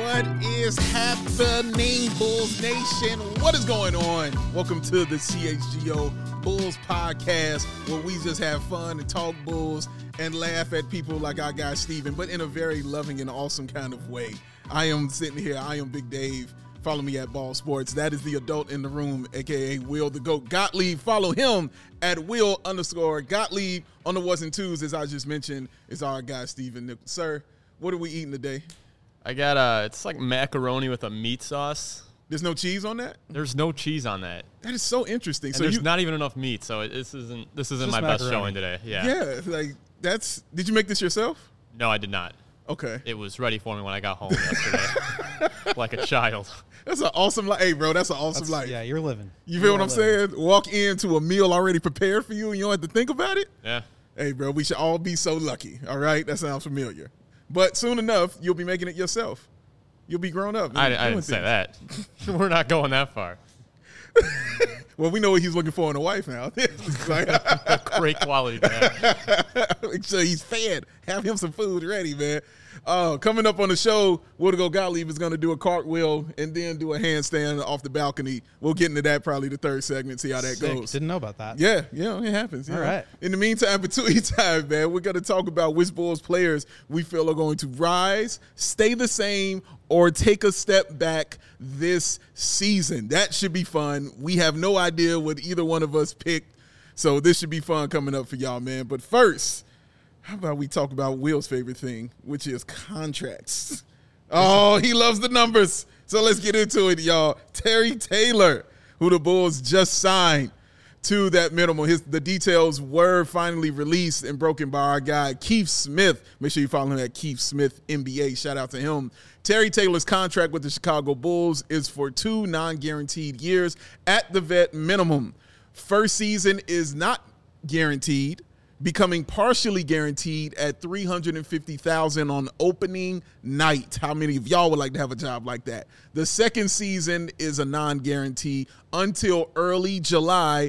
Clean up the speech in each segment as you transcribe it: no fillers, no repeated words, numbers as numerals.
What is happening, Bulls Nation? What is going on? Welcome to the CHGO Bulls Podcast, where we just have fun and talk Bulls and laugh at people like our guy Steven, but in a very loving and awesome kind of way. I am sitting here. I am Big Dave. Follow me at Ball Sports. That is the adult in the room, a.k.a. Will the GOAT Gottlieb. Follow him at Will_Gottlieb. On the ones and twos, as I just mentioned, is our guy Steven. Sir, what are we eating today? I got it's like macaroni with a meat sauce. There's no cheese on that? There's no cheese on that. That is so interesting. And so there's not even enough meat, so this isn't my best showing today. Yeah, like did you make this yourself? No, I did not. Okay. It was ready for me when I got home yesterday. Like a child. That's an awesome life. Hey, bro, that's an awesome life. Yeah, you're living. You feel what I'm saying? Walk into a meal already prepared for you and you don't have to think about it? Yeah. Hey, bro, we should all be so lucky, all right? That sounds familiar. But soon enough, you'll be making it yourself. You'll be grown up. I didn't say that. We're not going that far. Well, we know what he's looking for in a wife now. Great quality, man. Make sure he's fed. Have him some food ready, man. Coming up on the show, Will the GOAT Gottlieb is going to do a cartwheel and then do a handstand off the balcony. We'll get into that probably the third segment, see how that goes. Didn't know about that. Yeah, it happens. All right. In the meantime, between time, man, we're going to talk about which Bulls players we feel are going to rise, stay the same, or take a step back this season. That should be fun. We have no idea what either one of us picked, so this should be fun coming up for y'all, man. But first, how about we talk about Will's favorite thing, which is contracts. Oh, he loves the numbers. So let's get into it, y'all. Terry Taylor, who the Bulls just signed to that minimum. The details were finally released and broken by our guy, Keith Smith. Make sure you follow him at Keith Smith NBA. Shout out to him. Terry Taylor's contract with the Chicago Bulls is for 2 non-guaranteed years at the vet minimum. First season is not guaranteed, becoming partially guaranteed at $350,000 on opening night. How many of y'all would like to have a job like that? The second season is a non-guarantee until early July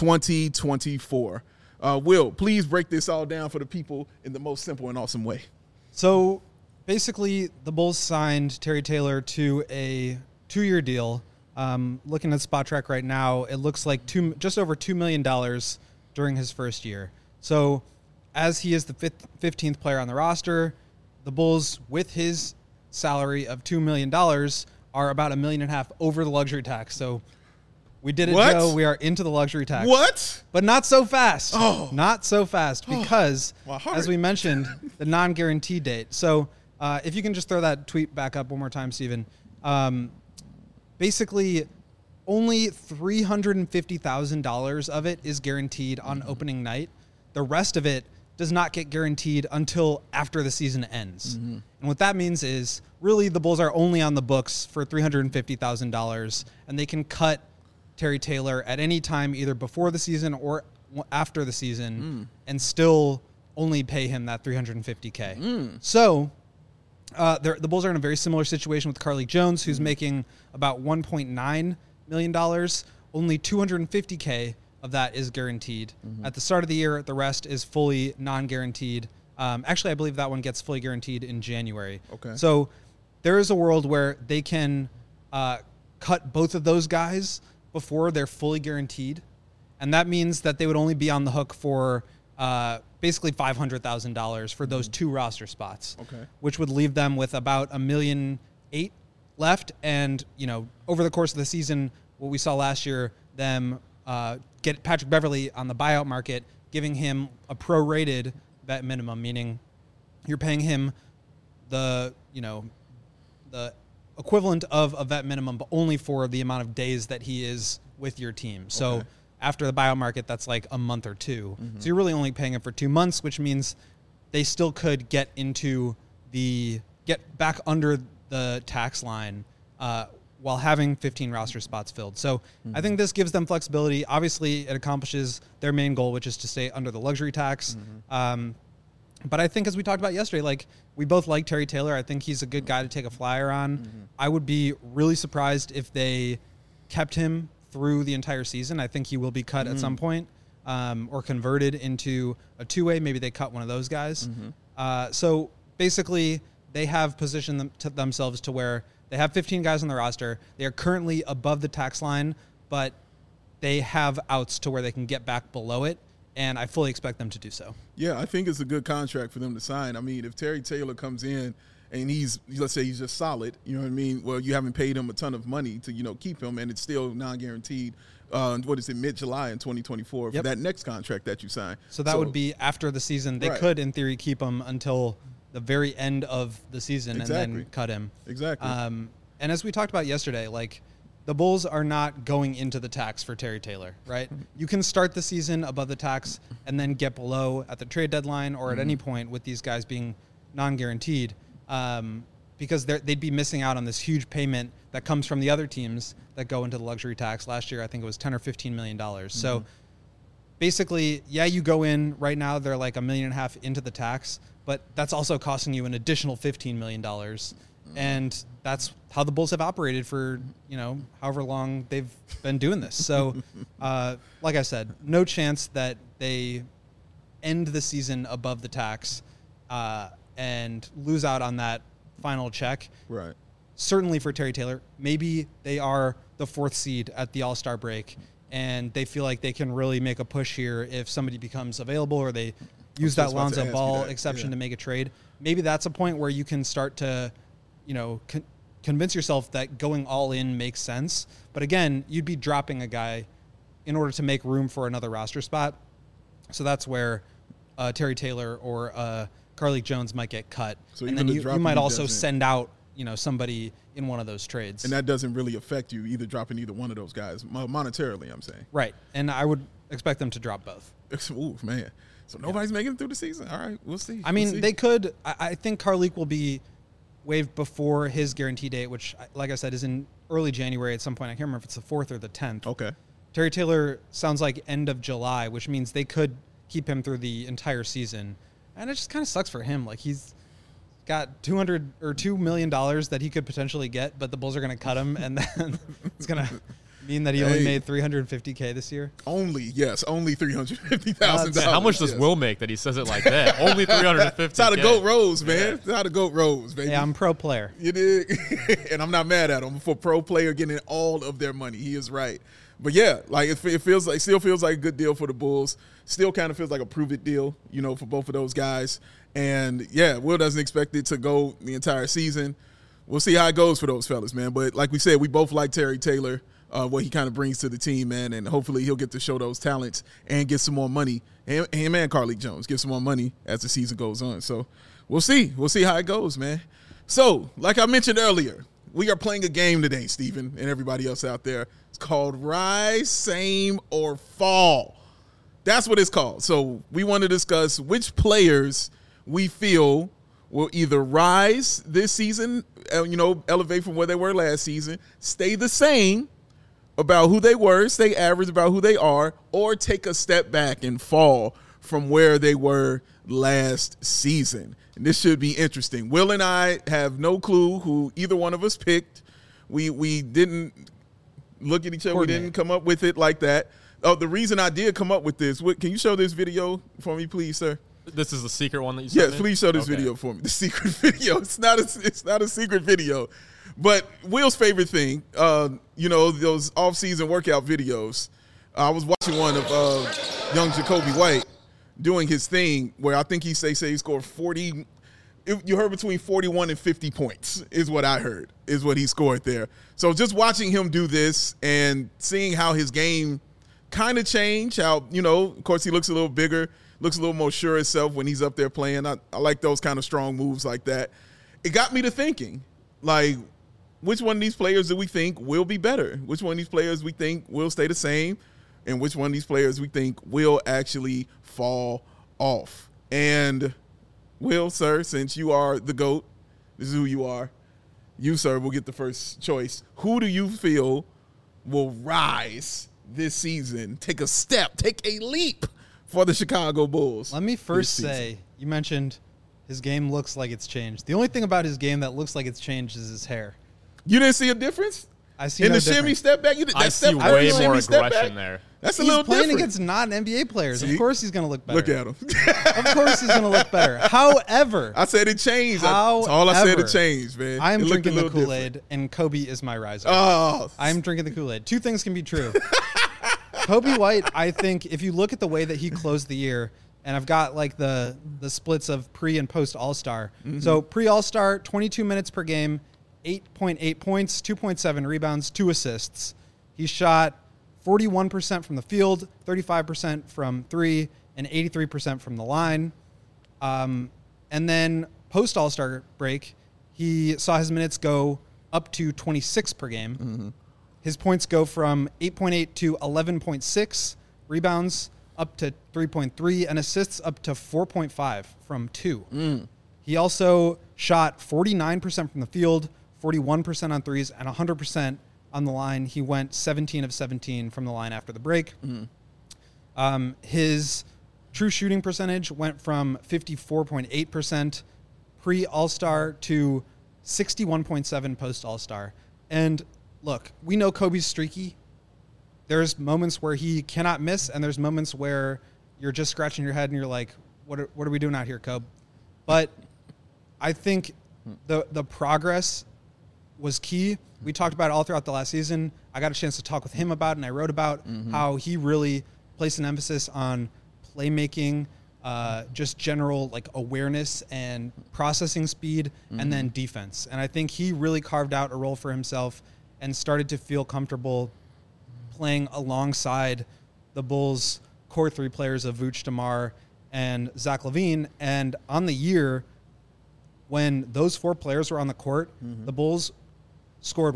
2024. Will, please break this all down for the people in the most simple and awesome way. So basically, the Bulls signed Terry Taylor to a 2-year deal. Looking at SpotTrack right now, it looks like just over $2 million during his first year. So as he is the 15th player on the roster, the Bulls, with his salary of $2 million, are about $1.5 million over the luxury tax. So we did it, What? Joe. We are into the luxury tax. What? But not so fast. Oh. Not so fast because, my heart. as we mentioned, the non-guarantee date. So if you can just throw that tweet back up one more time, Steven. Basically, only $350,000 of it is guaranteed on opening night. The rest of it does not get guaranteed until after the season ends. Mm-hmm. And what that means is, really, the Bulls are only on the books for $350,000, and they can cut Terry Taylor at any time, either before the season or after the season, and still only pay him that $350K. So the Bulls are in a very similar situation with Carly Jones, who's making about $1.9 million. Only $250K of that is guaranteed. At the start of the year, the rest is fully non-guaranteed. Actually, I believe that one gets fully guaranteed in January. Okay. So there is a world where they can cut both of those guys before they're fully guaranteed. And that means that they would only be on the hook for basically $500,000 for those 2 roster spots, which would leave them with about $1.8 million left. And, over the course of the season, what we saw last year, them get Patrick Beverley on the buyout market, giving him a prorated vet minimum, meaning you're paying him the equivalent of a vet minimum, but only for the amount of days that he is with your team. So after the buyout market, that's like a month or 2. So you're really only paying him for 2 months, which means they still could get back under the tax line while having 15 roster spots filled. So I think this gives them flexibility. Obviously, it accomplishes their main goal, which is to stay under the luxury tax. But I think, as we talked about yesterday, we both like Terry Taylor. I think he's a good guy to take a flyer on. I would be really surprised if they kept him through the entire season. I think he will be cut at some point or converted into a 2-way. Maybe they cut one of those guys. So basically, they have positioned themselves to where they have 15 guys on the roster. They are currently above the tax line, but they have outs to where they can get back below it, and I fully expect them to do so. Yeah, I think it's a good contract for them to sign. I mean, if Terry Taylor comes in and let's say he's just solid, you know what I mean? Well, you haven't paid him a ton of money to, keep him, and it's still non-guaranteed. Mid-July in 2024 for that next contract that you sign. So that would be after the season. They could, in theory, keep him until the very end of the season and then cut him. Exactly. And as we talked about yesterday, like, the Bulls are not going into the tax for Terry Taylor, right? You can start the season above the tax and then get below at the trade deadline or at any point with these guys being non-guaranteed, because they'd be missing out on this huge payment that comes from the other teams that go into the luxury tax. Last year, I think it was $10 or $15 million. So basically, you go in right now, they're like $1.5 million into the tax, but that's also costing you an additional $15 million. And that's how the Bulls have operated for, however long they've been doing this. So, like I said, no chance that they end the season above the tax and lose out on that final check. Right. Certainly for Terry Taylor, maybe they are the 4th seed at the All-Star break, and they feel like they can really make a push here if somebody becomes available, or they use that Lonzo Ball exception to make a trade. Maybe that's a point where you can start to, convince yourself that going all in makes sense. But again, you'd be dropping a guy in order to make room for another roster spot. So that's where Terry Taylor or Carlik Jones might get cut. So and then you might also send out, somebody in one of those trades. And that doesn't really affect you dropping either one of those guys monetarily, I'm saying. Right. And I would expect them to drop both. Ooh, man. So nobody's making it through the season. All right, we'll see. I mean, they could. I think Carlik will be waived before his guarantee date, which, like I said, is in early January at some point. I can't remember if it's the 4th or the 10th. Okay. Terry Taylor sounds like end of July, which means they could keep him through the entire season. And it just kind of sucks for him. Like, he's got $2 million that he could potentially get, but the Bulls are going to cut him, and then it's going to mean that he only made $350K this year. Only $350,000. How much does Will make that he says it like that? Only $350K. It's how the GOAT rose, man. It's how the GOAT rose, baby. Yeah, I'm pro player. You did, and I'm not mad at him for pro player getting all of their money. He is right. But yeah, like it still feels like a good deal for the Bulls. Still kind of feels like a prove-it deal, for both of those guys. And yeah, Will doesn't expect it to go the entire season. We'll see how it goes for those fellas, man. But like we said, we both like Terry Taylor, what he kind of brings to the team, man. And hopefully he'll get to show those talents and get some more money. Him and Carlik Jones get some more money as the season goes on. So we'll see. We'll see how it goes, man. So like I mentioned earlier, we are playing a game today, Stephen, and everybody else out there. It's called Rise, Same, or Fall. That's what it's called. So we want to discuss which players we feel will either rise this season, elevate from where they were last season, stay the same about who they were, stay average about who they are, or take a step back and fall from where they were last season. And this should be interesting. Will and I have no clue who either one of us picked. We didn't look at each other. We didn't come up with it like that. Oh, the reason I did come up with this, can you show this video for me, please, sir? This is the secret one that you sent me? Yes, please show this video for me. The secret video. It's not a secret video. But Will's favorite thing, those off-season workout videos. I was watching one of young Jacoby White doing his thing where I think he he scored 40. You heard between 41 and 50 points is what I heard, is what he scored there. So just watching him do this and seeing how his game kind of changed, how, of course he looks a little bigger, looks a little more sure of himself when he's up there playing. I like those kind of strong moves like that. It got me to thinking, like, which one of these players do we think will be better? Which one of these players we think will stay the same? And which one of these players we think will actually fall off? And Will, sir, since you are the GOAT, this is who you are. You, sir, will get the first choice. Who do you feel will rise this season, take a leap for the Chicago Bulls? Let me first say, you mentioned his game looks like it's changed. The only thing about his game that looks like it's changed is his hair. You didn't see a difference? I see in no the shimmy difference. step back. I see way more aggression there. That's a He's little playing different. against non-NBA players. See? Of course he's going to look better. Look at him. Of course he's going to look better. However, I said it changed. That's all I said. However, It changed, man. I am It looked drinking a the little Kool-Aid, different. and Kobe is my riser. Oh, I'm drinking the Kool-Aid. Two things can be true. Kobe White, I think, if you look at the way that he closed the year, and I've got like the splits of pre and post All-Star. So pre All-Star, 22 minutes per game, 8.8 points, 2.7 rebounds, 2 assists. He shot 41% from the field, 35% from 3, and 83% from the line. And then post All-Star break, he saw his minutes go up to 26 per game. His points go from 8.8 to 11.6, rebounds up to 3.3, and assists up to 4.5 from 2. He also shot 49% from the field, 41% on threes, and 100% on the line. He went 17 of 17 from the line after the break. His true shooting percentage went from 54.8% pre-All-Star to 61.7 post-All-Star. And look, we know Kobe's streaky. There's moments where he cannot miss, and there's moments where you're just scratching your head and you're like, what are we doing out here, Kobe? But I think the progress was key. We talked about it all throughout the last season. I got a chance to talk with him about it, and I wrote about how he really placed an emphasis on playmaking, just general like awareness and processing speed, and then defense. And I think he really carved out a role for himself and started to feel comfortable playing alongside the Bulls' core 3 players of Vooch, DeMar, and Zach LaVine. And on the year, when those 4 players were on the court, the Bulls scored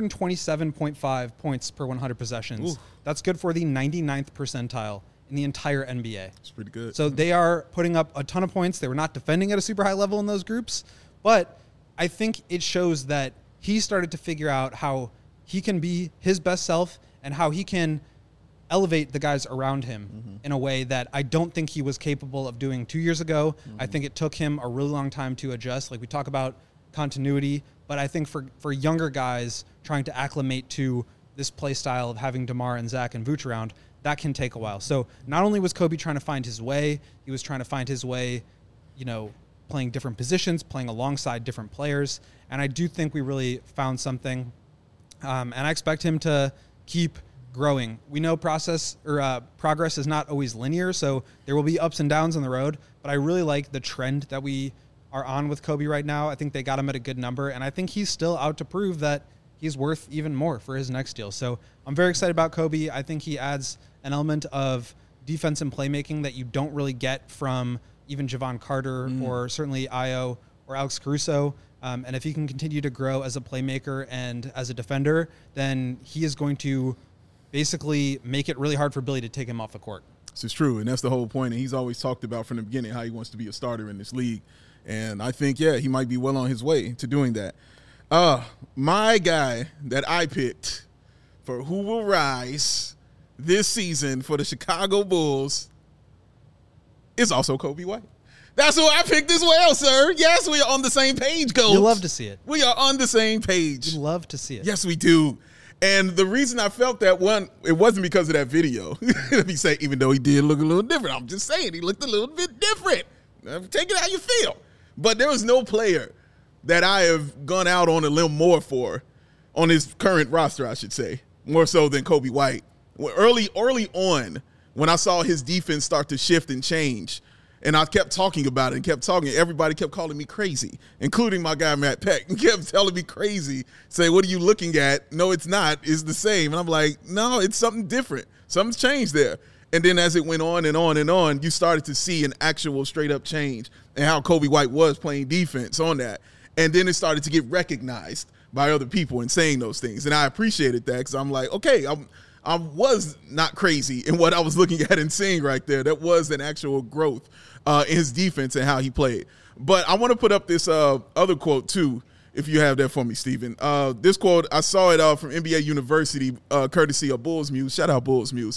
127.5 points per 100 possessions. That's good for the 99th percentile in the entire NBA. It's pretty good. So they are putting up a ton of points. They were not defending at a super high level in those groups, but I think it shows that he started to figure out how he can be his best self and how he can elevate the guys around him in a way that I don't think he was capable of doing 2 years ago. I think it took him a really long time to adjust. Like we talk about continuity, but I think for younger guys trying to acclimate to this play style of having DeMar and Zach and Vooch around, that can take a while. So not only was Kobe trying to find his way, he was trying to find his way, playing different positions, playing alongside different players. And I do think we really found something. And I expect him to keep growing. We know progress is not always linear, so there will be ups and downs on the road, but I really like the trend that we are on with Kobe right now. I think they got him at a good number, and I think he's still out to prove that he's worth even more for his next deal. So I'm very excited about Kobe. I think he adds an element of defense and playmaking that you don't really get from even Javon Carter or certainly Ayo or Alex Caruso. And if he can continue to grow as a playmaker and as a defender, then he is going to basically make it really hard for Billy to take him off the court. This is true, and that's the whole point. And he's always talked about from the beginning how he wants to be a starter in this league. And I think, he might be well on his way to doing that. My guy that I picked for who will rise this season for the Chicago Bulls is also Kobe White. That's who I picked as well, sir. Yes, we are on the same page, Coach. You love to see it. We are on the same page. You love to see it. Yes, we do. And the reason I felt that one, it wasn't because of that video. Let me say, even though he did look a little different, I'm just saying he looked a little bit different. Take it how you feel. But there was no player that I have gone out on a limb more for on his current roster, I should say, more so than Kobe White. Early on, when I saw his defense start to shift and change, and I kept talking about it and kept talking, everybody kept calling me crazy, including my guy Matt Peck. He kept telling me crazy, say, what are you looking at? No, it's not. It's the same. And I'm like, no, it's something different. Something's changed there. And then as it went on and on and on, you started to see an actual straight-up change and how Kobe White was playing defense on that. And then it started to get recognized by other people and saying those things. And I appreciated that because I'm like, okay, I was not crazy in what I was looking at and seeing right there. That was an actual growth in his defense and how he played. But I want to put up this other quote, too, if you have that for me, Steven. This quote, I saw it from NBA University, courtesy of Bulls Muse. Shout out Bulls Muse.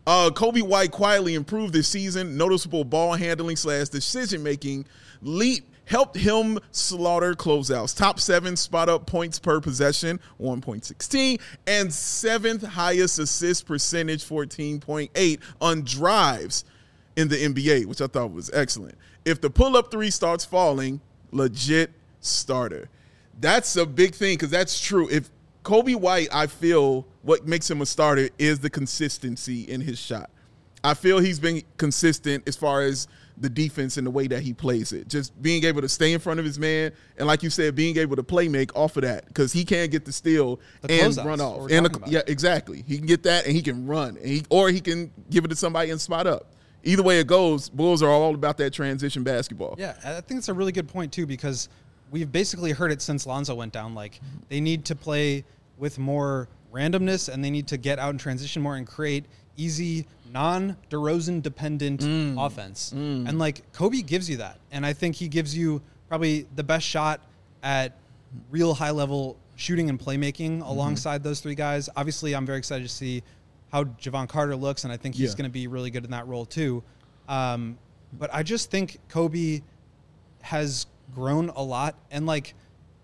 Kobe White quietly improved this season. Noticeable ball handling / decision making leap helped him slaughter closeouts. Top 7 spot up points per possession, 1.16, and 7th highest assist percentage, 14.8 on drives in the NBA, which I thought was excellent. If the pull-up 3 starts falling, legit starter. That's a big thing because that's true. If Kobe White, I feel what makes him a starter is the consistency in his shot. I feel he's been consistent as far as the defense and the way that he plays it. Just being able to stay in front of his man and, like you said, being able to play make off of that because he can get the steal and run off. Yeah, exactly. He can get that and he can run. And or he can give it to somebody and spot up. Either way it goes, Bulls are all about that transition basketball. Yeah, I think it's a really good point, too, because we've basically heard it since Lonzo went down. Like, they need to play with more randomness and they need to get out and transition more and create easy, non-DeRozan-dependent offense. And, like, Kobe gives you that. And I think he gives you probably the best shot at real high-level shooting and playmaking alongside those 3 guys. Obviously, I'm very excited to see how Javon Carter looks, and I think he's going to be really good in that role too. But I just think Kobe has grown a lot. And, like,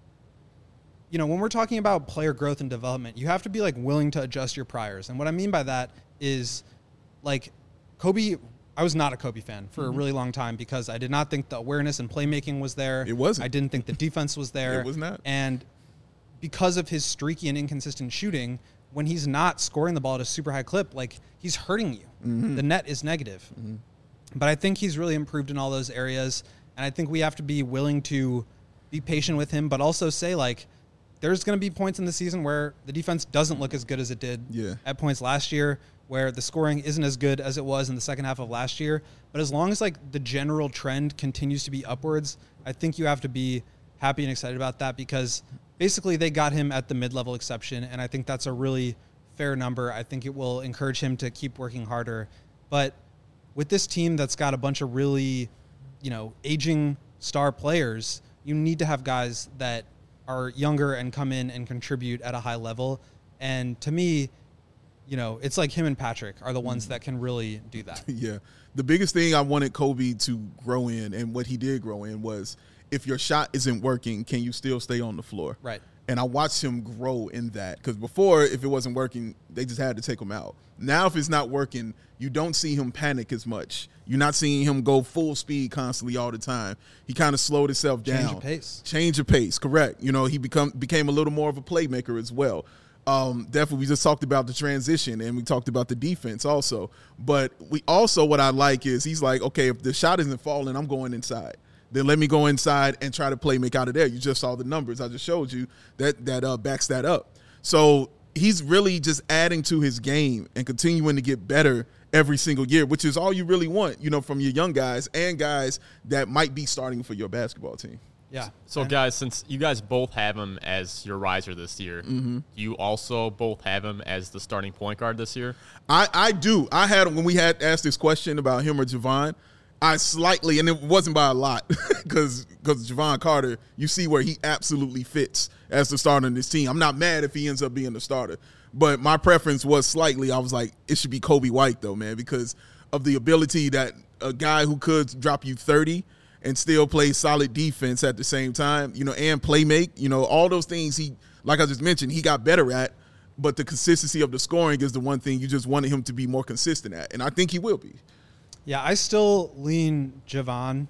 you know, when we're talking about player growth and development, you have to be, like, willing to adjust your priors. And what I mean by that is, like, Kobe, I was not a Kobe fan for a really long time because I did not think the awareness and playmaking was there. It wasn't. I didn't think the defense was there. It was not. And because of his streaky and inconsistent shooting, when he's not scoring the ball at a super high clip, like, he's hurting you. The net is negative. But I think he's really improved in all those areas. And I think we have to be willing to be patient with him, but also say, like, there's going to be points in the season where the defense doesn't look as good as it did at points last year, where the scoring isn't as good as it was in the second half of last year. But as long as, like, the general trend continues to be upwards, I think you have to be happy and excited about that because basically they got him at the mid-level exception, and I think that's a really fair number. I think it will encourage him to keep working harder. But with this team that's got a bunch of really, you know, aging star players, you need to have guys that are younger and come in and contribute at a high level. And to me, you know, it's like him and Patrick are the ones that can really do that. Yeah. The biggest thing I wanted Kobe to grow in, and what he did grow in, was if your shot isn't working, can you still stay on the floor? Right. And I watched him grow in that because before, if it wasn't working, they just had to take him out. Now, if it's not working, you don't see him panic as much. You're not seeing him go full speed constantly all the time. He kind of slowed himself down. Change of pace. Change of pace, correct. You know, he became a little more of a playmaker as well. Definitely, we just talked about the transition and we talked about the defense also. But we also, what I like is he's like, okay, if the shot isn't falling, I'm going inside. Then let me go inside and try to make out of there. You just saw the numbers I just showed you that backs that up. So he's really just adding to his game and continuing to get better every single year, which is all you really want, you know, from your young guys and guys that might be starting for your basketball team. Yeah. So, guys, since you guys both have him as your riser this year, do you also both have him as the starting point guard this year? I do. I had him when we had asked this question about him or Javon. I slightly, and it wasn't by a lot, because Javon Carter, you see where he absolutely fits as the starter in this team. I'm not mad if he ends up being the starter, but my preference was slightly, I was like, it should be Kobe White, though, man, because of the ability that a guy who could drop you 30 and still play solid defense at the same time, you know, and play make, you know, all those things he, like I just mentioned, he got better at, but the consistency of the scoring is the one thing you just wanted him to be more consistent at, and I think he will be. Yeah, I still lean Javon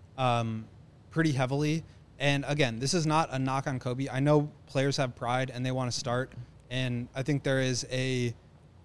pretty heavily. And again, this is not a knock on Kobe. I know players have pride and they want to start. And I think there is a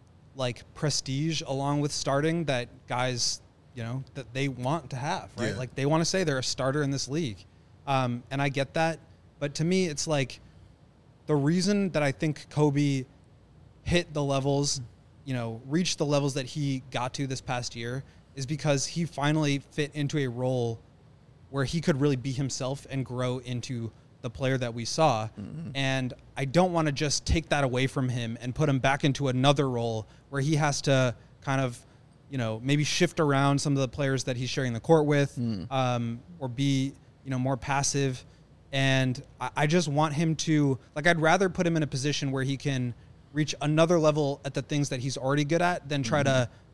prestige along with starting that guys, you know, that they want to have, right? Yeah. Like they want to say they're a starter in this league. And I get that. But to me, it's like the reason that I think Kobe hit the levels, you know, reached the levels that he got to this past year is because he finally fit into a role where he could really be himself and grow into the player that we saw. Mm-hmm. And I don't want to just take that away from him and put him back into another role where he has to kind of, you know, maybe shift around some of the players that he's sharing the court with, or be, you know, more passive. And I just want him to, like, I'd rather put him in a position where he can reach another level at the things that he's already good at than try to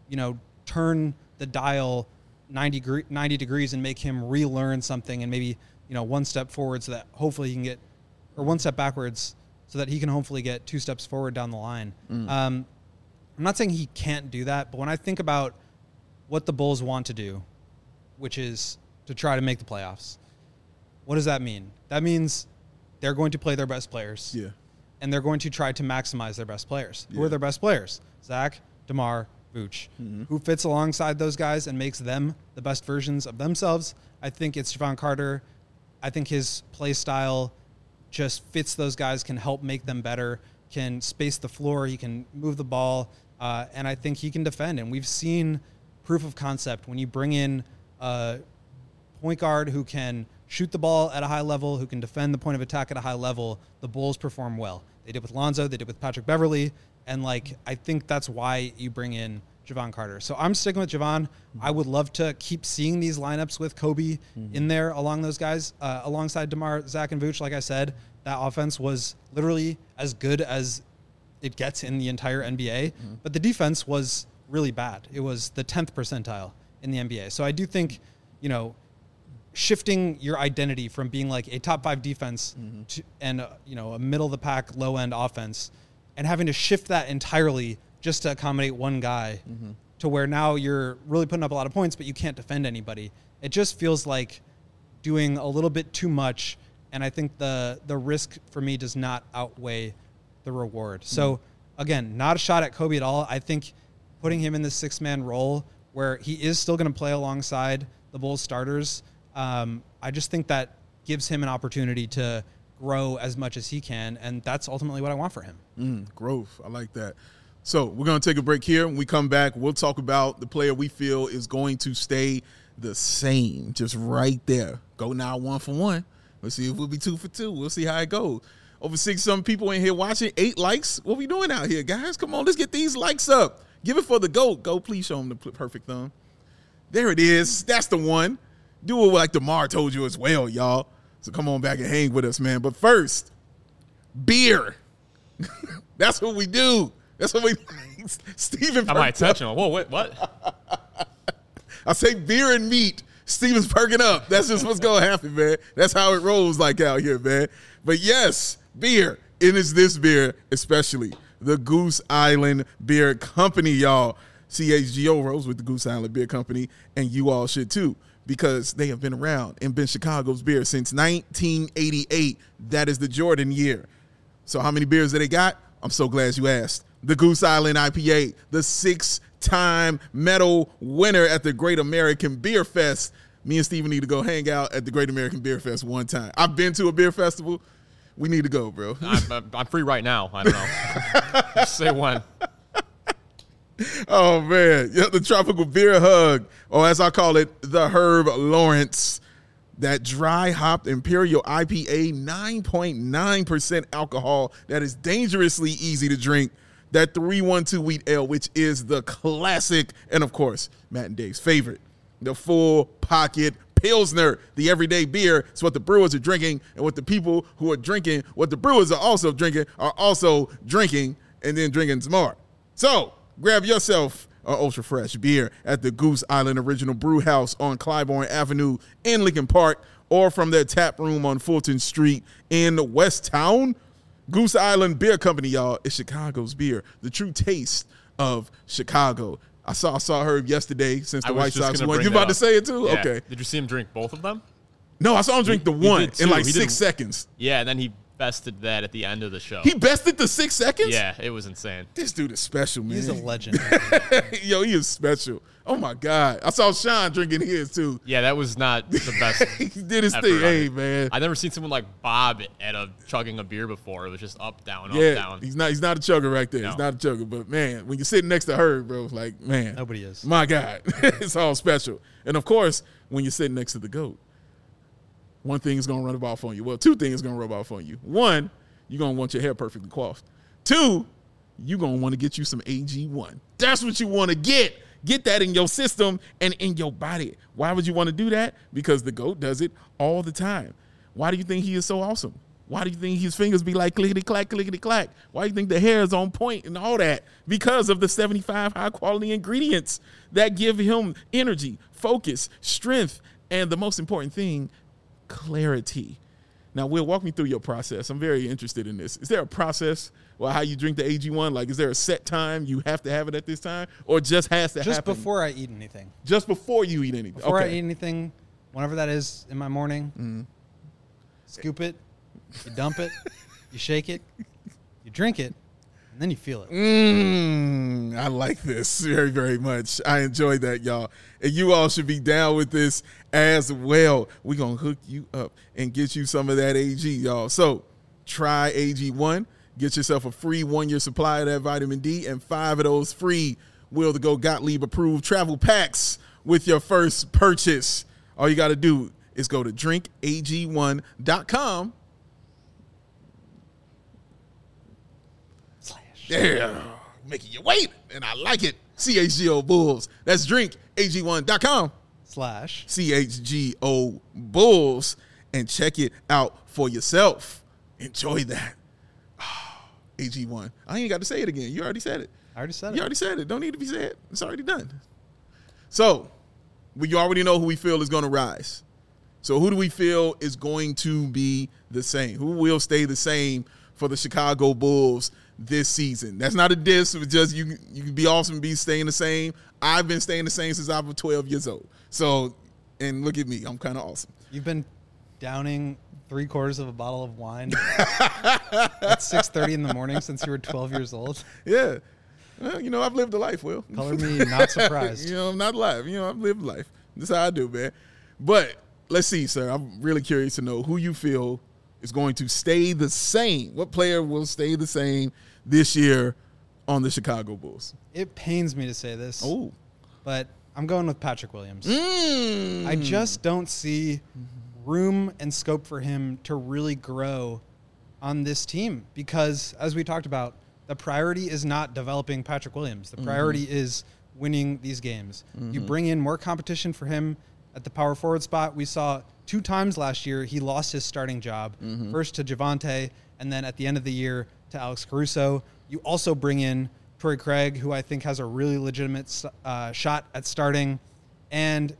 turn the dial 90 degrees and make him relearn something and maybe, one step forward so that hopefully he can get, or one step backwards so that he can hopefully get 2 steps forward down the line. I'm not saying he can't do that, but when I think about what the Bulls want to do, which is to try to make the playoffs, what does that mean? That means they're going to play their best players. Yeah. And they're going to try to maximize their best players. Yeah. Who are their best players? Zach, DeMar, Vooch. Who fits alongside those guys and makes them the best versions of themselves? I think it's Jevon Carter. I think his play style just fits those guys, can help make them better, can space the floor, he can move the ball, and I think he can defend. And we've seen proof of concept when you bring in a point guard who can shoot the ball at a high level, who can defend the point of attack at a high level, the Bulls perform well. They did with Lonzo, they did with Patrick Beverley, and I think that's why you bring in Jevon Carter. So I'm sticking with Jevon. I would love to keep seeing these lineups with Kobe in there along those guys, alongside DeMar, Zach, and Vooch. Like I said, that offense was literally as good as it gets in the entire NBA, but the defense was really bad. It was the 10th percentile in the NBA. So I do think, shifting your identity from being like a top 5 defense to, and a middle of the pack, low end offense, and having to shift that entirely just to accommodate one guy to where now you're really putting up a lot of points, but you can't defend anybody. It just feels like doing a little bit too much. And I think the risk for me does not outweigh the reward. So again, not a shot at Kobe at all. I think putting him in the 6-man role where he is still going to play alongside the Bulls starters, I just think that gives him an opportunity to grow as much as he can, and that's ultimately what I want for him. Growth. I like that. So we're going to take a break here. When we come back, we'll talk about the player we feel is going to stay the same, just right there. Go now 1 for 1. Let's see if we'll be 2 for 2. We'll see how it goes. Over 6-some people in here watching, 8 likes. What we doing out here, guys? Come on, let's get these likes up. Give it for the GOAT. Go, please show him the perfect thumb. There it is. That's the one. Do it like DeMar told you as well, y'all. So come on back and hang with us, man. But first, beer. That's what we do. That's what we Steven. I might touch him. Whoa, wait, what? I say beer and meat. Steven's perking up. That's just what's going to happen, man. That's how it rolls like out here, man. But yes, beer. It is this beer, especially the Goose Island Beer Company, y'all. CHGO rolls with the Goose Island Beer Company, and you all should too, because they have been around and been Chicago's beer since 1988. That is the Jordan year. So how many beers do they got? I'm so glad you asked. The Goose Island IPA, the 6-time medal winner at the Great American Beer Fest. Me and Steven need to go hang out at the Great American Beer Fest one time. I've been to a beer festival. We need to go, bro. I'm free right now. I don't know. Just say when. Oh, man. Yeah, the Tropical Beer Hug, or as I call it, the Herb Lawrence. That dry hopped Imperial IPA, 9.9% alcohol. That is dangerously easy to drink. That 312 Wheat Ale, which is the classic, and of course, Matt and Dave's favorite, the Full Pocket Pilsner, the everyday beer. It's what the brewers are drinking, and what the people who are drinking, what the brewers are also drinking and then drinking some more. So grab yourself an ultra fresh beer at the Goose Island Original Brew House on Clybourne Avenue in Lincoln Park, or from their tap room on Fulton Street in Westtown. Goose Island Beer Company, y'all, is Chicago's beer, the true taste of Chicago. I saw Herb yesterday since the White Sox won. You about to say it too? Yeah. Okay. Did you see him drink both of them? No, I saw him drink the one in like 6 seconds. Yeah, and then he bested that at the end of the show. He bested the 6 seconds? Yeah, it was insane. This dude is special, man. He's a legend. Yo, he is special. Oh, my God. I saw Sean drinking his, too. Yeah, that was not the best. He did his thing. Hey, man. I've never seen someone like Bob chugging a beer before. It was just up, down, up, Yeah, down. he's not a chugger right there. No. He's not a chugger. But, man, when you're sitting next to Herb, bro, like, man. Nobody is. My God. It's all special. And, of course, when you're sitting next to the GOAT, one thing is going to run off on you. Well, 2 things going to rub off on you. 1, you're going to want your hair perfectly coiffed. 2, you're going to want to get you some AG1. That's what you want to get. Get that in your system and in your body. Why would you want to do that? Because the GOAT does it all the time. Why do you think he is so awesome? Why do you think his fingers be like clickety-clack, clickety-clack? Why do you think the hair is on point and all that? Because of the 75 high-quality ingredients that give him energy, focus, strength, and the most important thing, clarity. Now, Will, walk me through your process. I'm very interested in this. Is there a process or how you drink the AG1? Like, is there a set time you have to have it at this time, or just has to happen? Just before I eat anything. Just before you eat anything. Before I eat anything, whenever that is in my morning, scoop it, you dump it, you shake it, you drink it, and then you feel it. I like this very, very much. I enjoyed that, y'all. And you all should be down with this as well. We're going to hook you up and get you some of that AG, y'all. So try AG1. Get yourself a free 1-year supply of that vitamin D and 5 of those free Will to Go Gottlieb approved travel packs with your first purchase. All you got to do is go to drinkag1.com. Yeah, making you wait, and I like it. CHGO Bulls. That's drinkag1.com. /CHGO Bulls, and check it out for yourself. Enjoy that. AG1. I ain't got to say it again. You already said it. I already said it. You already said it. Don't need to be said. It's already done. So, we already know who we feel is going to rise. So, who do we feel is going to be the same? Who will stay the same for the Chicago Bulls this season? That's not a diss. It's just you can be awesome and be staying the same. I've been staying the same since I was 12 years old. So, and look at me. I'm kind of awesome. You've been downing 3/4 of a bottle of wine at 6:30 in the morning since you were 12 years old. Yeah. Well, I've lived a life, Will. Color me not surprised. I'm not alive. I've lived life. That's how I do, man. But let's see, sir. I'm really curious to know who you feel is going to stay the same. What player will stay the same this year on the Chicago Bulls? It pains me to say this. Oh. But I'm going with Patrick Williams. I just don't see room and scope for him to really grow on this team because, as we talked about, the priority is not developing Patrick Williams. The priority is winning these games. You bring in more competition for him at the power forward spot. We saw 2 times last year he lost his starting job, first to Javonte and then at the end of the year to Alex Caruso. You also bring in Torrey Craig, who I think has a really legitimate shot at starting. And,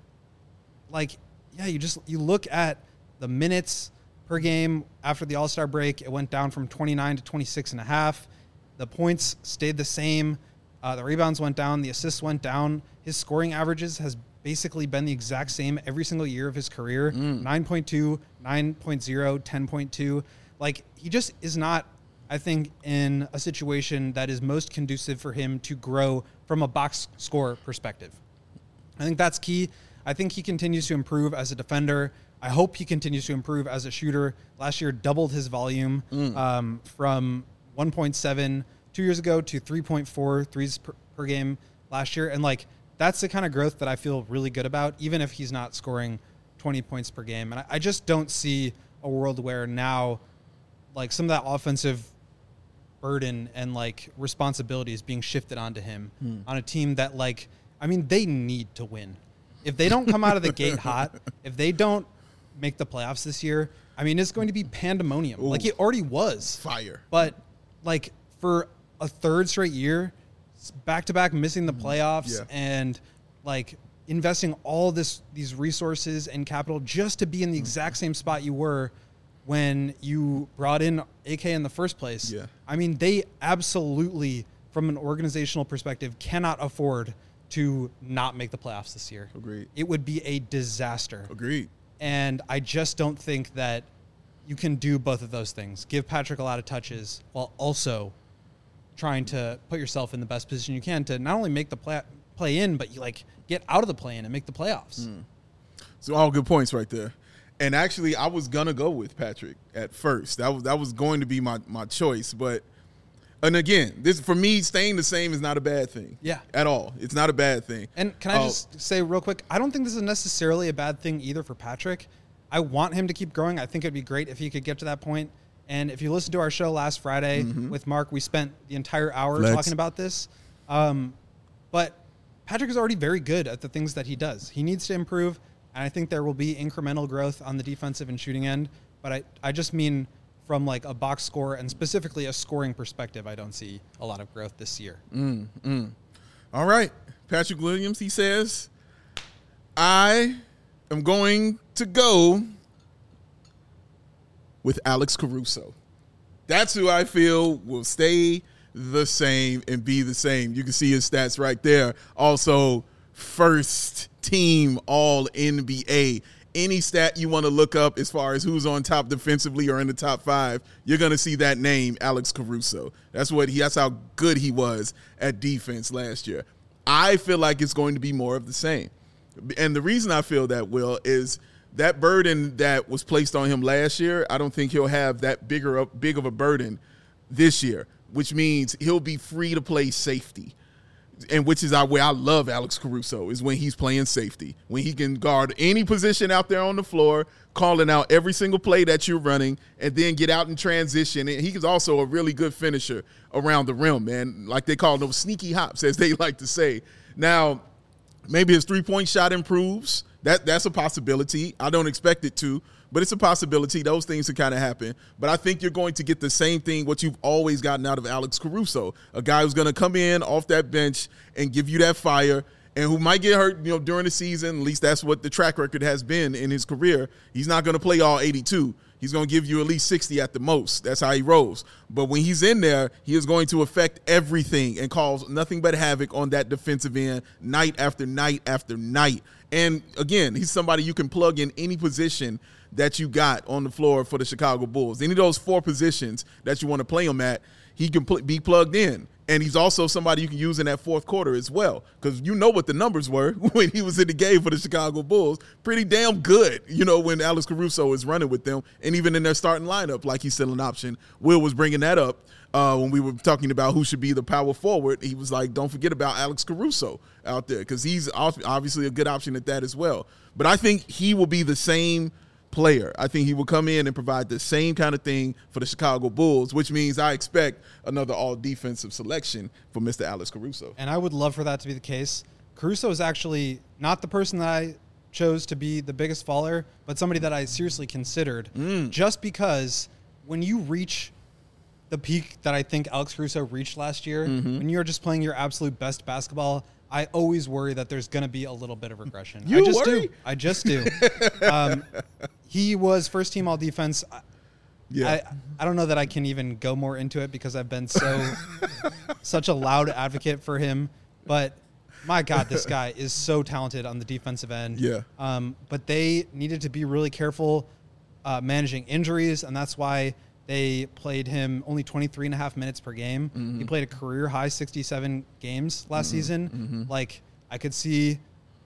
you look at the minutes per game after the All-Star break. It went down from 29 to 26.5. The points stayed the same. The rebounds went down. The assists went down. His scoring averages has basically been the exact same every single year of his career. 9.2, 9.0, 10.2. He just is not, I think, in a situation that is most conducive for him to grow from a box score perspective. I think that's key. I think he continues to improve as a defender. I hope he continues to improve as a shooter. Last year doubled his volume from 1.7 2 years ago to 3.4 threes per game last year. And that's the kind of growth that I feel really good about, even if he's not scoring 20 points per game. And I just don't see a world where now some of that offensive burden and responsibility is being shifted onto him on a team that they need to win. If they don't come out of the gate hot, if they don't make the playoffs this year, it's going to be pandemonium. Ooh. It already was. Fire. But for a third straight year, back-to-back missing the playoffs and investing all these resources and capital just to be in the exact same spot you were when you brought in AK in the first place. Yeah. They absolutely, from an organizational perspective, cannot afford to not make the playoffs this year. Agreed. It would be a disaster. Agreed. And I just don't think that you can do both of those things. Give Patrick a lot of touches while also trying to put yourself in the best position you can to not only make the play in, but you get out of the play in and make the playoffs. So all good points right there. And actually, I was gonna go with Patrick at first. That was going to be my choice. But and again, this for me, staying the same is not a bad thing. Yeah, at all. It's not a bad thing. And can I just say real quick, I don't think this is necessarily a bad thing either for Patrick. I want him to keep growing. I think it'd be great if he could get to that point. And if you listened to our show last Friday with Mark, we spent the entire hour talking about this. But Patrick is already very good at the things that he does. He needs to improve, and I think there will be incremental growth on the defensive and shooting end. But I just mean from like a box score and specifically a scoring perspective, I don't see a lot of growth this year. All right. Patrick Williams, he says, I am going to go with Alex Caruso. That's who I feel will stay the same and be the same. You can see his stats right there. Also, first team all NBA. Any stat you want to look up as far as who's on top defensively or in the top 5, you're going to see that name, Alex Caruso. That's how good he was at defense last year. I feel like it's going to be more of the same. And the reason I feel that, Will, is that burden that was placed on him last year, I don't think he'll have that big of a burden this year, which means he'll be free to play safety. And which is where I love Alex Caruso, is when he's playing safety, when he can guard any position out there on the floor, calling out every single play that you're running, and then get out in transition. And he's also a really good finisher around the rim, man. Like they call those sneaky hops, as they like to say. Now, maybe his three-point shot improves. That's a possibility. I don't expect it to, but it's a possibility. Those things can kind of happen. But I think you're going to get the same thing, what you've always gotten out of Alex Caruso, a guy who's going to come in off that bench and give you that fire, and who might get hurt, during the season. At least that's what the track record has been in his career. He's not going to play all 82. He's going to give you at least 60 at the most. That's how he rolls. But when he's in there, he is going to affect everything and cause nothing but havoc on that defensive end night after night after night. And, again, he's somebody you can plug in any position that you got on the floor for the Chicago Bulls. Any of those 4 positions that you want to play him at, he can be plugged in. And he's also somebody you can use in that fourth quarter as well, because you know what the numbers were when he was in the game for the Chicago Bulls. Pretty damn good, when Alex Caruso is running with them, and even in their starting lineup, like he's still an option. Will was bringing that up when we were talking about who should be the power forward. He was like, don't forget about Alex Caruso out there, because he's obviously a good option at that as well. But I think he will be the same player. I think he will come in and provide the same kind of thing for the Chicago Bulls, which means I expect another all-defensive selection for Mr. Alex Caruso. And I would love for that to be the case. Caruso is actually not the person that I chose to be the biggest faller, but somebody that I seriously considered, just because when you reach the peak that I think Alex Caruso reached last year, when you're just playing your absolute best basketball, I always worry that there's going to be a little bit of regression. I just do. He was first team all defense. I don't know that I can even go more into it because I've been such a loud advocate for him. But my God, this guy is so talented on the defensive end. Yeah. But they needed to be really careful managing injuries, and that's why they played him only 23 and a half minutes per game. He played a career high 67 games last season. Like, I could see,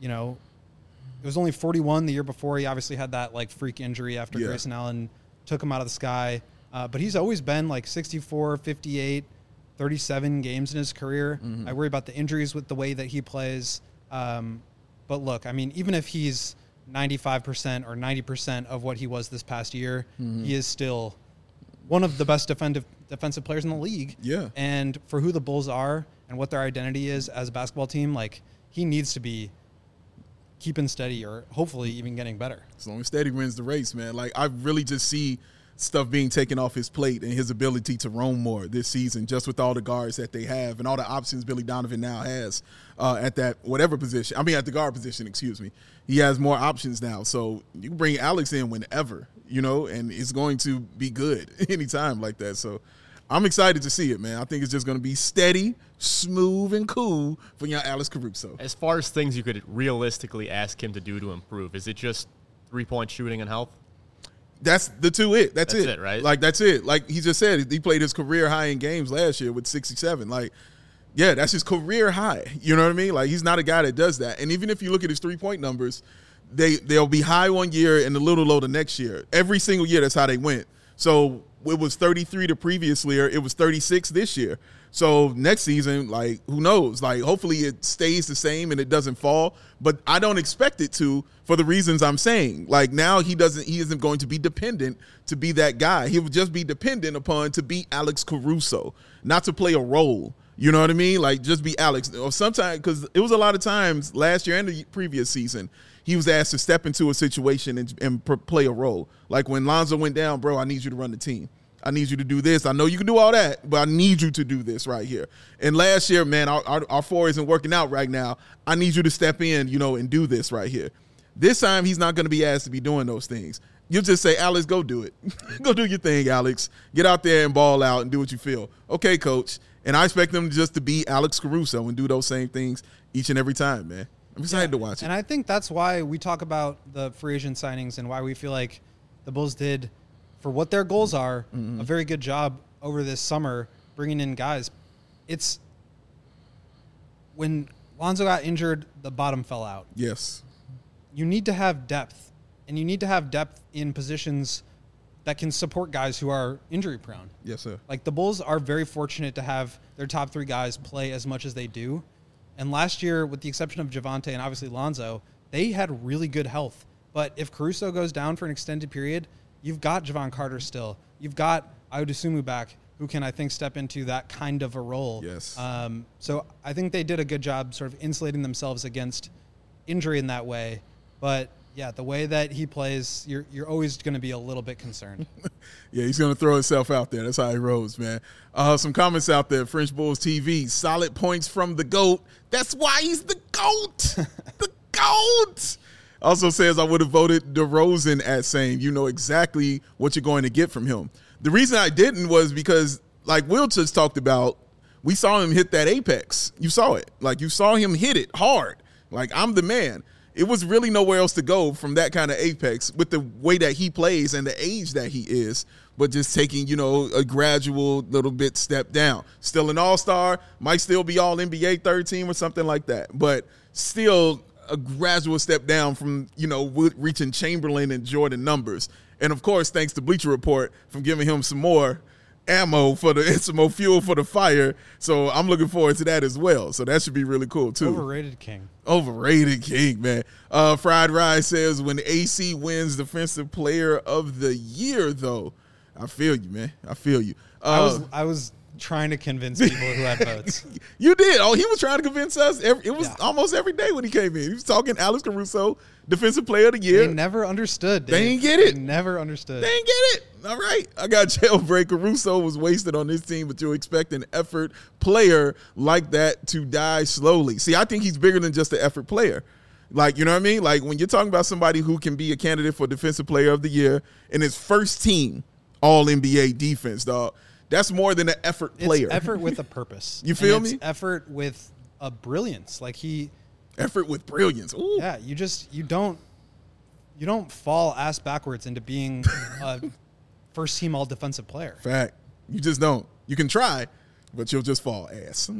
it was only 41 the year before. He obviously had that freak injury after Grayson Allen took him out of the sky. But he's always been 64, 58, 37 games in his career. I worry about the injuries with the way that he plays. But look, I mean, even if he's 95% or 90% of what he was this past year, he is still one of the best defensive players in the league. Yeah. And for who the Bulls are and what their identity is as a basketball team, he needs to be keeping steady or hopefully even getting better. As long as steady wins the race, man. I really just see stuff being taken off his plate and his ability to roam more this season, just with all the guards that they have and all the options Billy Donovan now has at that whatever position. I mean, at the guard position, excuse me. He has more options now. So you can bring Alex in whenever, and it's going to be good anytime like that. So I'm excited to see it, man. I think it's just going to be steady, smooth, and cool for young Alex Caruso. As far as things you could realistically ask him to do to improve, is it just three-point shooting and health? That's the two it. That's it, right? That's it. Like he just said, he played his career high in games last year with 67. That's his career high. You know what I mean? He's not a guy that does that. And even if you look at his three-point numbers, they'll be high one year and a little low the next year. Every single year, that's how they went. So it was 33 the previous year. It was 36 this year. So next season, who knows? Hopefully it stays the same and it doesn't fall. But I don't expect it to for the reasons I'm saying. Now he isn't going to be dependent to be that guy. He would just be dependent upon to be Alex Caruso, not to play a role. You know what I mean? Just be Alex. Or sometimes, because it was a lot of times last year and the previous season, he was asked to step into a situation and play a role. When Lonzo went down, bro, I need you to run the team. I need you to do this. I know you can do all that, but I need you to do this right here. And last year, man, our 4 isn't working out right now. I need you to step in, and do this right here. This time, he's not going to be asked to be doing those things. You'll just say, Alex, go do it. Go do your thing, Alex. Get out there and ball out and do what you feel. Okay, coach. And I expect them just to be Alex Caruso and do those same things each and every time, man. I'm excited to watch it. And I think that's why we talk about the free agent signings and why we feel like the Bulls did, for what their goals are, a very good job over this summer bringing in guys. It's when Lonzo got injured, the bottom fell out. Yes. You need to have depth, and you need to have depth in positions that can support guys who are injury prone. Yes, sir. Like, the Bulls are very fortunate to have their top 3 guys play as much as they do. And last year, with the exception of Javonte and obviously Lonzo, they had really good health. But if Caruso goes down for an extended period, you've got Javon Carter still. You've got Ayo Dosunmu back, who can, I think, step into that kind of a role. Yes. So I think they did a good job sort of insulating themselves against injury in that way. But, yeah, the way that he plays, you're always going to be a little bit concerned. Yeah, he's going to throw himself out there. That's how he rolls, man. Some comments out there. French Bulls TV, solid points from the GOAT. That's why he's the GOAT. The GOAT. Also says, I would have voted DeRozan at same. You know exactly what you're going to get from him. The reason I didn't was because, like Will just talked about, we saw him hit that apex. You saw it. Like, you saw him hit it hard. Like, I'm the man. It was really nowhere else to go from that kind of apex with the way that he plays and the age that he is, but just taking, a gradual little bit step down. Still an all-star, might still be all NBA third team or something like that, but still a gradual step down from, reaching Chamberlain and Jordan numbers. And, of course, thanks to Bleacher Report for giving him some more ammo some more fuel for the fire. So I'm looking forward to that as well. So that should be really cool, too. Overrated king, man. Fried Rice says, when AC wins Defensive Player of the Year, though, I feel you, man. I feel you. I was trying to convince people who had votes. You did. Oh, he was trying to convince us. It was almost every day when he came in. He was talking Alex Caruso, Defensive Player of the Year. They never understood, Dave. They didn't get it. They never understood. They didn't get it. All right. I got Jailbreak. Caruso was wasted on this team, but you expect an effort player like that to die slowly. See, I think he's bigger than just an effort player. Like, you know what I mean? Like, when you're talking about somebody who can be a candidate for Defensive Player of the Year in his first team All-NBA defense, dog, that's more than an effort player. It's effort with a purpose. You feel me? It's effort with a brilliance. Like, effort with brilliance. Ooh. Yeah, you don't fall ass backwards into being a first team all defensive player. Fact. You just don't. You can try, but you'll just fall ass.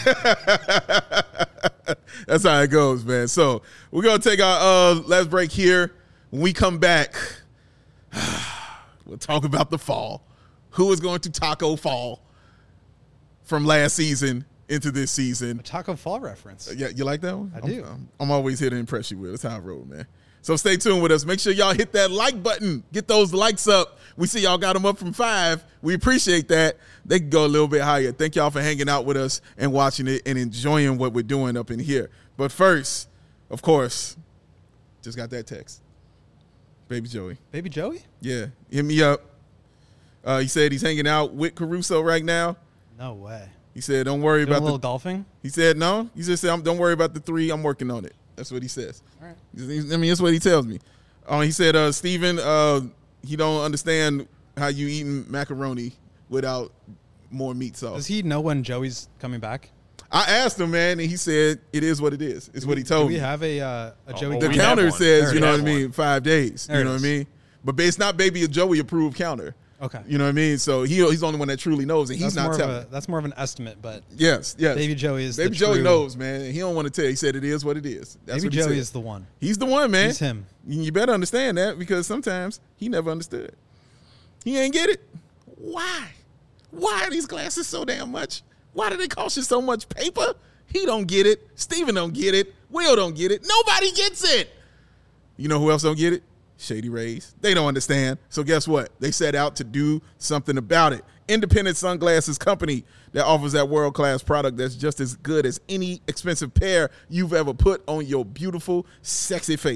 That's how it goes, man. So we're going to take our last break here. When we come back, we'll talk about the fall. Who is going to taco fall from last season into this season? A taco fall reference. Yeah, you like that one? I do. I'm always here to impress you with. That's how I roll, man. So stay tuned with us. Make sure y'all hit that like button. Get those likes up. We see y'all got them up from 5. We appreciate that. They can go a little bit higher. Thank y'all for hanging out with us and watching it and enjoying what we're doing up in here. But first, of course, just got that text. Baby Joey. Baby Joey? Yeah. Hit me up. He said he's hanging out with Caruso right now. No way. He said, don't worry about a little golfing? He said, no. He just said, don't worry about the 3. I'm working on it. That's what he says. All right. I mean, that's what he tells me. He said, Steven, he don't understand how you eating macaroni without more meat sauce. Does he know when Joey's coming back? I asked him, man, and he said, it is what it is. It's what he told me. Do we have a Joey? The counter says, you know what I mean, 5 days. You know what I mean? But it's not Baby Joey approved counter. Okay. You know what I mean? So he's the only one that truly knows, and he's not telling. That's more of an estimate, but yes. Baby Joey is Baby Joey knows, man. He don't want to tell you. He said it is what it is. That's Baby Joey is the one. He's the one, man. He's him. You better understand that, because sometimes he never understood. He ain't get it. Why? Why are these glasses so damn much? Why do they cost you so much paper? He don't get it. Steven don't get it. Will don't get it. Nobody gets it. You know who else don't get it? Shady Rays. They don't understand. So guess what? They set out to do something about it. Independent sunglasses company that offers that world-class product that's just as good as any expensive pair you've ever put on your beautiful, sexy face.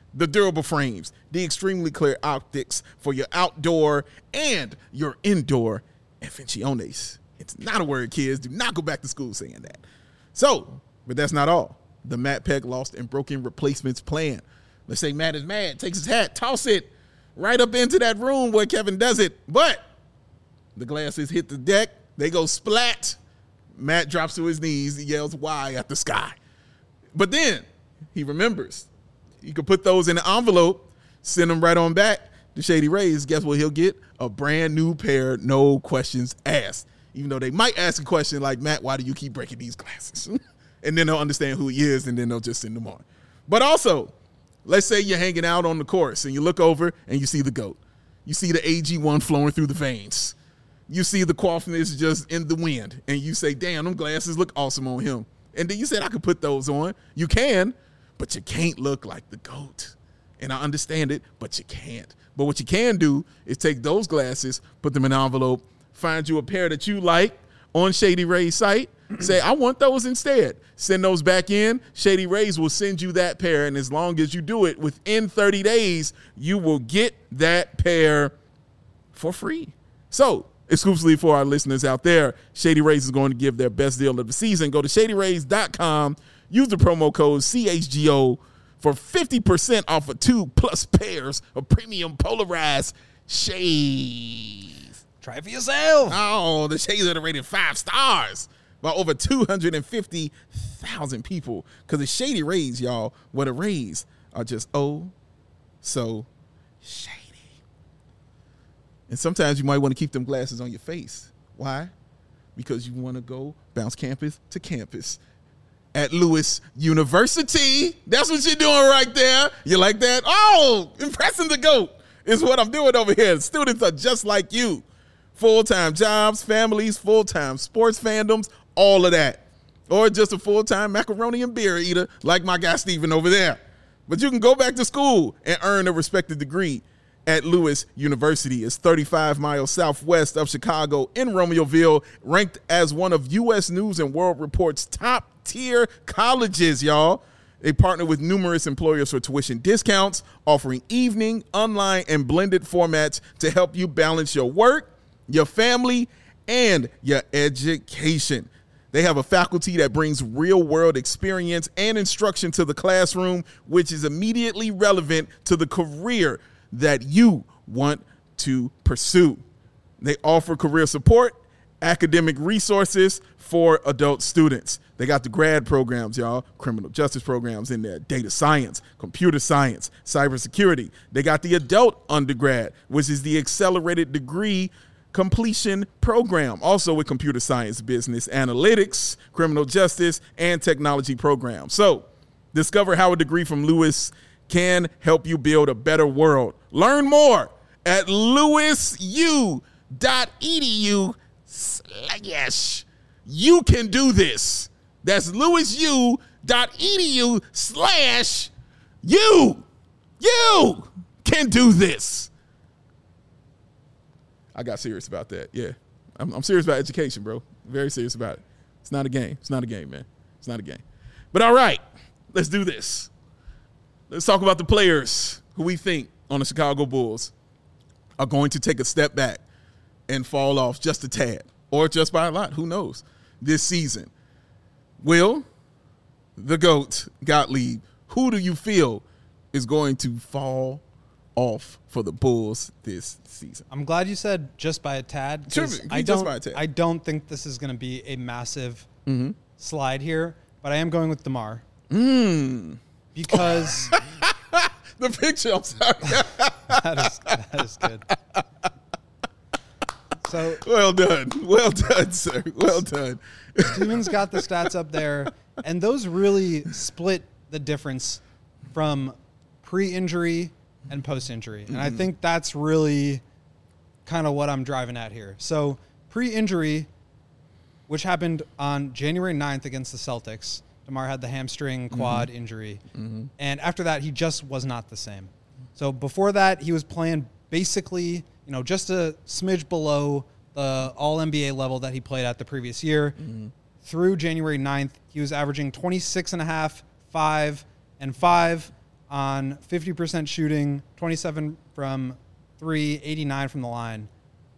the durable frames, the extremely clear optics for your outdoor and your indoor invenciones. It's not a word, kids. Do not go back to school saying that. So, but that's not all. The Matt Peck lost and broken replacements plan. Let's say Matt is mad, takes his hat, toss it right up into that room where Kevin does it. But the glasses hit the deck. They go splat. Matt drops to his knees. He yells, "Why?" at the sky. But then he remembers. You can put those in an envelope, send them right on back to Shady Rays. Guess what he'll get? A brand new pair, no questions asked. Even though they might ask a question like, "Matt, why do you keep breaking these glasses?" And then they'll understand who he is, and then they'll just send them on. But also, let's say you're hanging out on the course, and you look over, and you see the GOAT. You see the AG1 flowing through the veins. You see the coiffiness just in the wind, and you say, "Damn, them glasses look awesome on him." And then you said, "I could put those on." You can, but you can't look like the GOAT. And I understand it, but you can't. But what you can do is take those glasses, put them in an envelope, find you a pair that you like on Shady Ray's site, say, "I want those instead." Send those back in. Shady Rays will send you that pair, and as long as you do it within 30 days, you will get that pair for free. So, exclusively for our listeners out there, Shady Rays is going to give their best deal of the season. Go to ShadyRays.com, use the promo code CHGO for 50% off of 2+ pairs of premium polarized shades. Try it for yourself. Oh, the shades are rated 5 stars by over 250,000 people. Because the Shady Rays, y'all, where the Rays are just so shady. And sometimes you might want to keep them glasses on your face. Why? Because you want to go bounce campus to campus at Lewis University. That's what you're doing right there. You like that? Oh, impressing the GOAT is what I'm doing over here. Students are just like you. Full-time jobs, families, full-time sports fandoms, all of that. Or just a full-time macaroni and beer eater like my guy Steven over there. But you can go back to school and earn a respected degree at Lewis University. It's 35 miles southwest of Chicago in Romeoville, ranked as one of U.S. News and World Report's top-tier colleges, y'all. They partner with numerous employers for tuition discounts, offering evening, online, and blended formats to help you balance your work, your family, and your education. They have a faculty that brings real-world experience and instruction to the classroom, which is immediately relevant to the career that you want to pursue. They offer career support, academic resources for adult students. They got the grad programs, y'all, criminal justice programs in there, data science, computer science, cybersecurity. They got the adult undergrad, which is the accelerated degree completion program, also with computer science, business analytics, criminal justice, and technology programs. So discover how a degree from Lewis can help you build a better world. Learn more at lewisu.edu/. You can do this. That's lewisu.edu/. You can do this. I got serious about that. Yeah. I'm serious about education, bro. Very serious about it. It's not a game. It's not a game, man. It's not a game. But all right, let's do this. Let's talk about the players who we think on the Chicago Bulls are going to take a step back and fall off just a tad or just by a lot. Who knows? This season. Will, the GOAT, Gottlieb, who do you feel is going to fall off for the Bulls this season? I'm glad you said just by a tad. I don't think this is going to be a massive slide here, but I am going with DeMar. Because the picture, I'm sorry. that is good. So well done, sir. Well done. Steven's got the stats up there, and those really split the difference from pre-injury and post-injury. And I think that's really kind of what I'm driving at here. So pre-injury, which happened on January 9th against the Celtics, DeMar had the hamstring quad injury. And after that, he just was not the same. So before that, he was playing basically, just a smidge below the all-NBA level that he played at the previous year. Through January 9th, he was averaging 26.5, 5, and 5, on 50% shooting, 27 from 3, 89 from the line.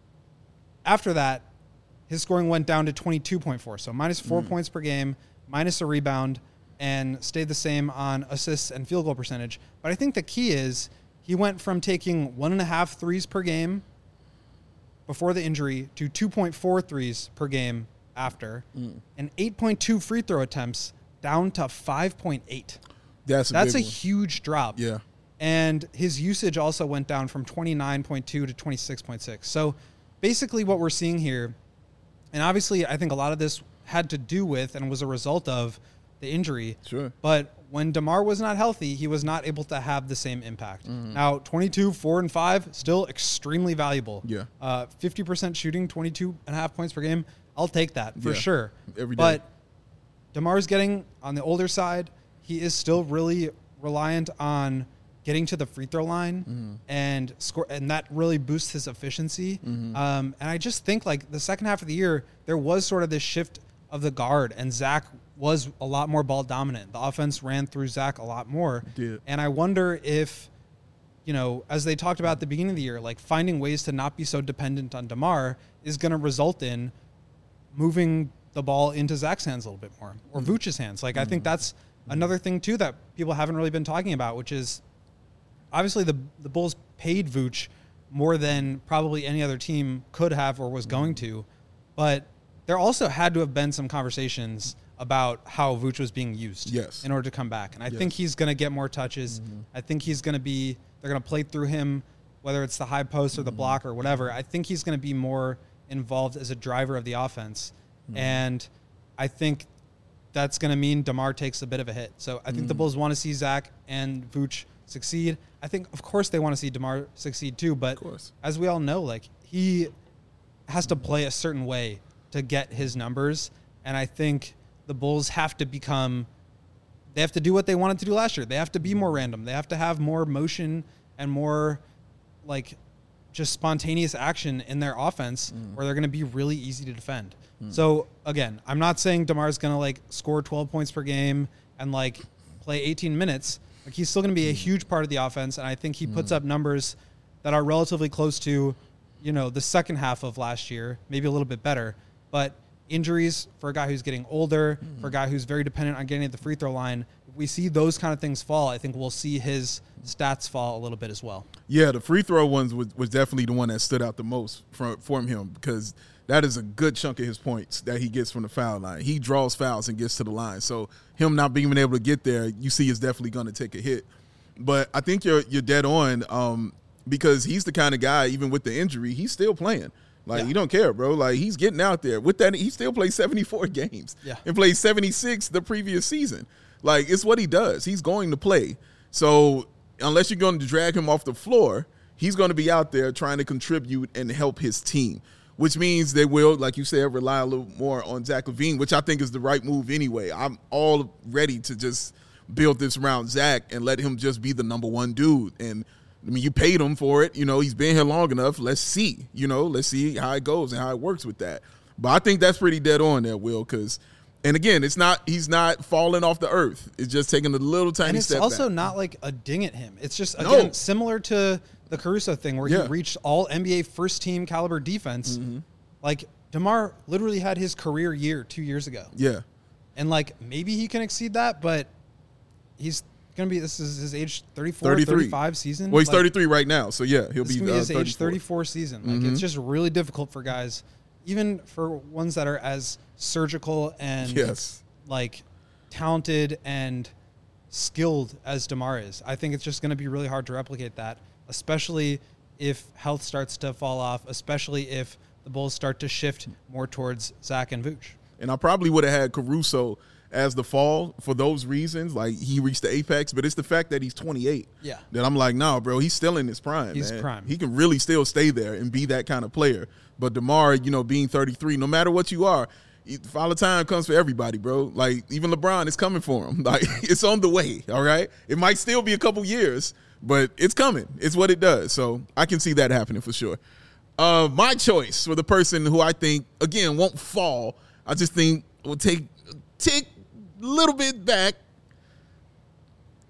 After that, his scoring went down to 22.4, so minus 4 points per game, minus a rebound, and stayed the same on assists and field goal percentage. But I think the key is he went from taking 1.5 threes per game before the injury to 2.4 threes per game after, and 8.2 free throw attempts down to 5.8. That's a huge drop. Yeah. And his usage also went down from 29.2 to 26.6. So basically what we're seeing here, and obviously I think a lot of this had to do with and was a result of the injury. Sure. But when DeMar was not healthy, he was not able to have the same impact. Now, 22, 4, and 5, still extremely valuable. Yeah. 50% shooting, 22.5 points per game. I'll take that for Yeah. sure. Every day. But DeMar's getting on the older side. He is still really reliant on getting to the free throw line and score, and that really boosts his efficiency. And I just think like the second half of the year, there was sort of this shift of the guard, and Zach was a lot more ball dominant. The offense ran through Zach a lot more. Did. And I wonder if, you know, as they talked about at the beginning of the year, like finding ways to not be so dependent on DeMar is going to result in moving the ball into Zach's hands a little bit more, or Vooch's hands. Like, I think that's another thing, too, that people haven't really been talking about, which is obviously the Bulls paid Vooch more than probably any other team could have or was going to, but there also had to have been some conversations about how Vooch was being used in order to come back. And I think he's going to get more touches. I think he's going to be, they're going to play through him, whether it's the high post or the block or whatever. I think he's going to be more involved as a driver of the offense. And I think that's going to mean DeMar takes a bit of a hit. So I think the Bulls want to see Zach and Vooch succeed. I think, of course, they want to see DeMar succeed too. But as we all know, like, he has to play a certain way to get his numbers. And I think the Bulls have to become, they have to do what they wanted to do last year. They have to be more random. They have to have more motion and more, like, just spontaneous action in their offense where they're going to be really easy to defend. So, again, I'm not saying DeMar's going to, like, score 12 points per game and, like, play 18 minutes. Like, he's still going to be a huge part of the offense, and I think he puts up numbers that are relatively close to, you know, the second half of last year, maybe a little bit better. But injuries for a guy who's getting older, for a guy who's very dependent on getting at the free throw line, if we see those kind of things fall, I think we'll see his stats fall a little bit as well. Yeah, the free throw ones was definitely the one that stood out the most from him, because that is a good chunk of his points that he gets from the foul line. He draws fouls and gets to the line. So him not being able to get there, you see, is definitely going to take a hit. But I think you're dead on, because he's the kind of guy, even with the injury, he's still playing. Like, you don't care, bro. Like, he's getting out there. With that, he still plays 74 games and played 76 the previous season. Like, it's what he does. He's going to play. So unless you're going to drag him off the floor, he's going to be out there trying to contribute and help his team, which means they will, like you said, rely a little more on Zach LaVine, which I think is the right move anyway. I'm all ready to just build this around Zach and let him just be the number one dude. And I mean, you paid him for it. You know, he's been here long enough. Let's see. You know, let's see how it goes and how it works with that. But I think that's pretty dead on there, Will, because, and again, he's not falling off the earth. It's just taking a little tiny step back. And it's also not like a ding at him. It's just, again, similar to the Caruso thing where he reached all NBA first team caliber defense. Like, DeMar literally had his career year 2 years ago. Yeah. And, like, maybe he can exceed that, but he's going to be, this is his age 34, 33. 35 season. Well, he's 33 right now, so yeah, he'll be his 34. age 34 season. Like, it's just really difficult for guys, even for ones that are as surgical and like talented and skilled as DeMar is. I think it's just going to be really hard to replicate that, especially if health starts to fall off, especially if the Bulls start to shift more towards Zach and Vooch. And I probably would have had Caruso as the fall for those reasons. Like, he reached the apex, but it's the fact that he's 28. Yeah. That I'm like, no, bro, he's still in his prime. He's man. prime. He can really still stay there and be that kind of player. But DeMar, you know, being 33, no matter what you are, Father Time comes for everybody, bro. Like, even LeBron is coming for him. Like, it's on the way, all right? It might still be a couple years, but it's coming. It's what it does. So I can see that happening for sure. My choice for the person who I think, again, won't fall, I just think will take a little bit back.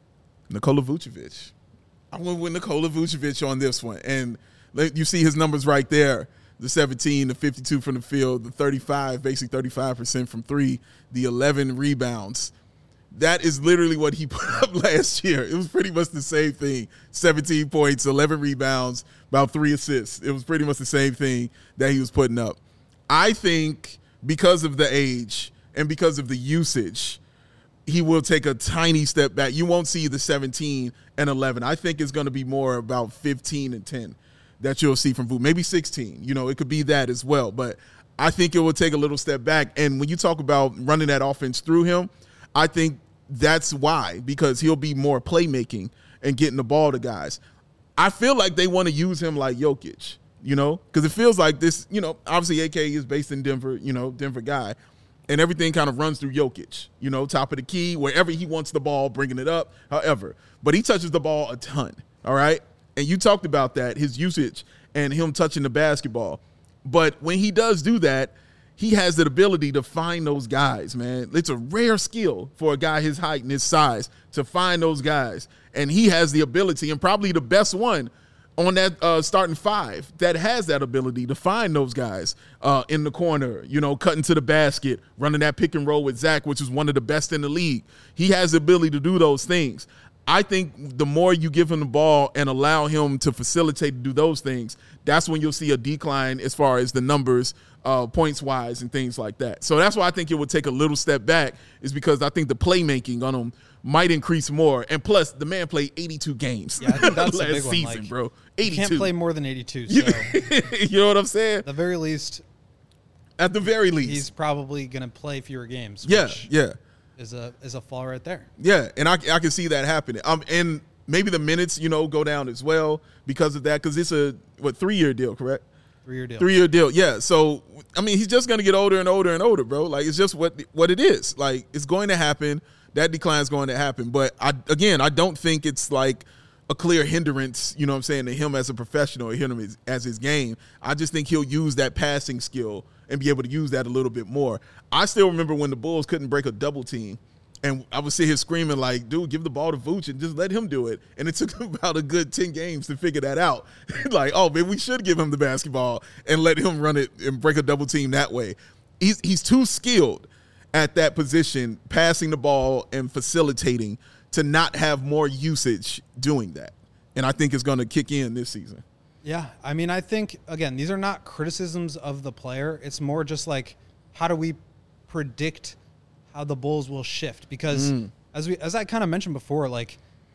Nikola Vucevic. I went with Nikola Vucevic on this one. And you see his numbers right there. The 17, the 52 from the field, the 35, basically 35% from three, the 11 rebounds. That is literally what he put up last year. It was pretty much the same thing. 17 points, 11 rebounds, about 3 assists. It was pretty much the same thing that he was putting up. I think because of the age and because of the usage, he will take a tiny step back. You won't see the 17 and 11. I think it's going to be more about 15 and 10 that you'll see from Vu. Maybe 16. You know, it could be that as well. But I think it will take a little step back. And when you talk about running that offense through him, I think that's why, because he'll be more playmaking and getting the ball to guys. I feel like they want to use him like Jokic, you know, because it feels like this, you know, obviously AK is based in Denver, you know, Denver guy, and everything kind of runs through Jokic, you know, top of the key, wherever he wants the ball, bringing it up, however. But he touches the ball a ton, all right? And you talked about that, his usage and him touching the basketball. But when he does do that, he has the ability to find those guys, man. It's a rare skill for a guy his height and his size to find those guys. And he has the ability, and probably the best one on that starting five that has that ability to find those guys in the corner, you know, cutting to the basket, running that pick and roll with Zach, which is one of the best in the league. He has the ability to do those things. I think the more you give him the ball and allow him to facilitate to do those things, that's when you'll see a decline as far as the numbers, points-wise and things like that. So that's why I think it would take a little step back, is because I think the playmaking on him might increase more. And plus, the man played 82 games I think that's last a big one. season, like, bro. 82. You can't play more than 82, so You know what I'm saying? at the very least, At the very least. he's probably going to play fewer games. Yeah, which yeah. is a fall right there. Yeah, and I can see that happening. And maybe the minutes, you know, go down as well because of that, because it's a, 3-year deal, correct? 3-year deal. 3-year deal, yeah. So, I mean, he's just going to get older and older and older, bro. Like, it's just what it is. Like, it's going to happen. That decline is going to happen. But, I don't think it's like a clear hindrance, you know what I'm saying, to him as a professional or him as his game. I just think he'll use that passing skill and be able to use that a little bit more. I still remember when the Bulls couldn't break a double team. And I would sit here screaming like, dude, give the ball to Vooch and just let him do it. And it took about a good 10 games to figure that out. Like, oh, man, we should give him the basketball and let him run it and break a double team that way. He's too skilled at that position, passing the ball and facilitating, to not have more usage doing that. And I think it's going to kick in this season. Yeah, I mean, I think, again, these are not criticisms of the player. It's more just like, how do we predict how the Bulls will shift? Because as I kind of mentioned before, like,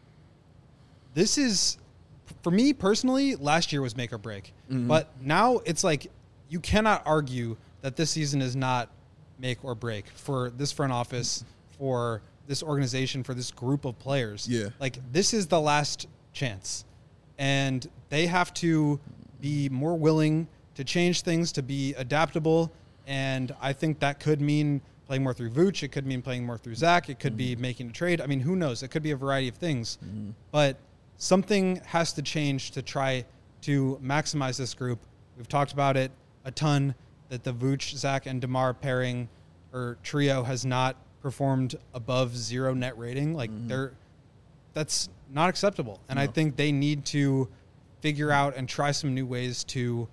this is, for me personally, last year was make or break. But now it's like, you cannot argue that this season is not make or break for this front office, for this organization, for this group of players. Yeah. Like, this is the last chance. And they have to be more willing to change things, to be adaptable. And I think that could mean playing more through Vooch. It could mean playing more through Zach. It could be making a trade. I mean, who knows? It could be a variety of things. But something has to change to try to maximize this group. We've talked about it a ton, that the Vooch, Zach, and DeMar pairing or trio has not performed above 0 net rating. Like, that's not acceptable. And I think they need to figure out and try some new ways to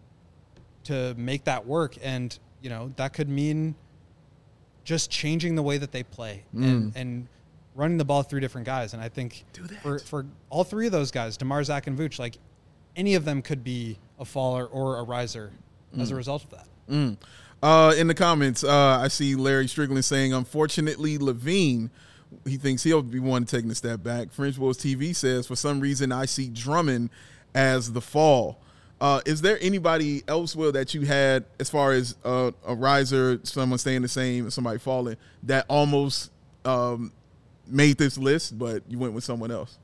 make that work. And, you know, that could mean just changing the way that they play and running the ball through different guys. And I think for all three of those guys, DeMar, Zach, and Vooch, like, any of them could be a faller or a riser as a result of that. In the comments, I see Larry Strickland saying, unfortunately, Levine, he thinks he'll be one taking a step back. French Bulls TV says, for some reason, I see Drummond as the fall. Is there anybody else, Will, that you had as far as a riser, someone staying the same, somebody falling, that almost made this list, but you went with someone else?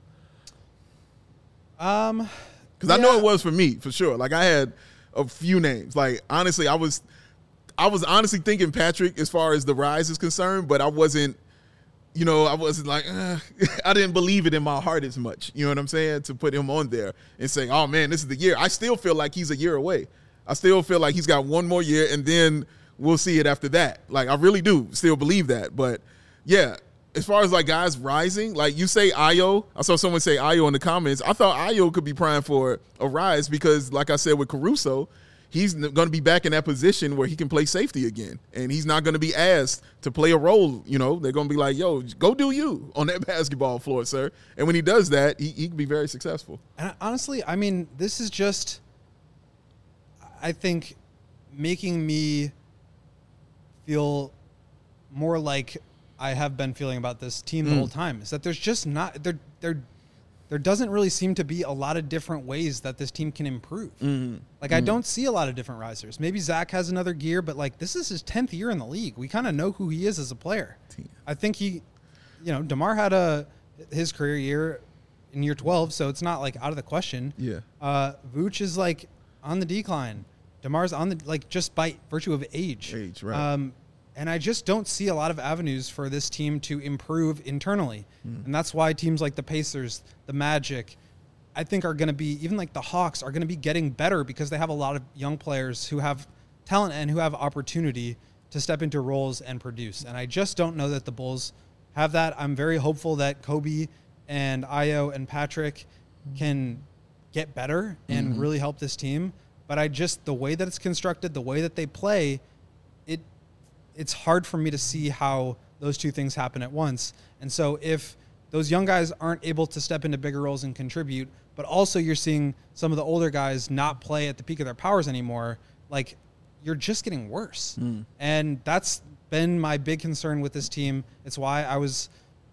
Because I know it was for me, for sure. Like, I had a few names. Like, honestly, I was honestly thinking Patrick as far as the rise is concerned, but I wasn't, you know, I wasn't like, I didn't believe it in my heart as much. You know what I'm saying? To put him on there and say, oh, man, this is the year. I still feel like he's a year away. I still feel like he's got one more year, and then we'll see it after that. Like, I really do still believe that. But, yeah, as far as like guys rising, like you say Ayo, I saw someone say Ayo in the comments. I thought Ayo could be primed for a rise because, like I said with Caruso, he's going to be back in that position where he can play safety again, and he's not going to be asked to play a role. You know, they're going to be like, "Yo, go do you on that basketball floor, sir." And when he does that, he can be very successful. And honestly, I mean, this is just, I think, making me feel more like I have been feeling about this team the whole time, is that there's just not there doesn't really seem to be a lot of different ways that this team can improve. Like I don't see a lot of different risers. Maybe Zach has another gear, but like this is his 10th year in the league. We kind of know who he is as a player. I think DeMar had his career year in year 12, so it's not like out of the question. Yeah. Vooch is like on the decline. DeMar's on the, like, just by virtue of age. Right. And I just don't see a lot of avenues for this team to improve internally. And that's why teams like the Pacers, the Magic, I think are going to be, even like the Hawks, are going to be getting better because they have a lot of young players who have talent and who have opportunity to step into roles and produce. And I just don't know that the Bulls have that. I'm very hopeful that Kobe and Ayo and Patrick can get better and really help this team. But the way that it's constructed, the way that they play, it's hard for me to see how those two things happen at once. And so if those young guys aren't able to step into bigger roles and contribute, but also you're seeing some of the older guys not play at the peak of their powers anymore, like you're just getting worse. And that's been my big concern with this team. It's why I was,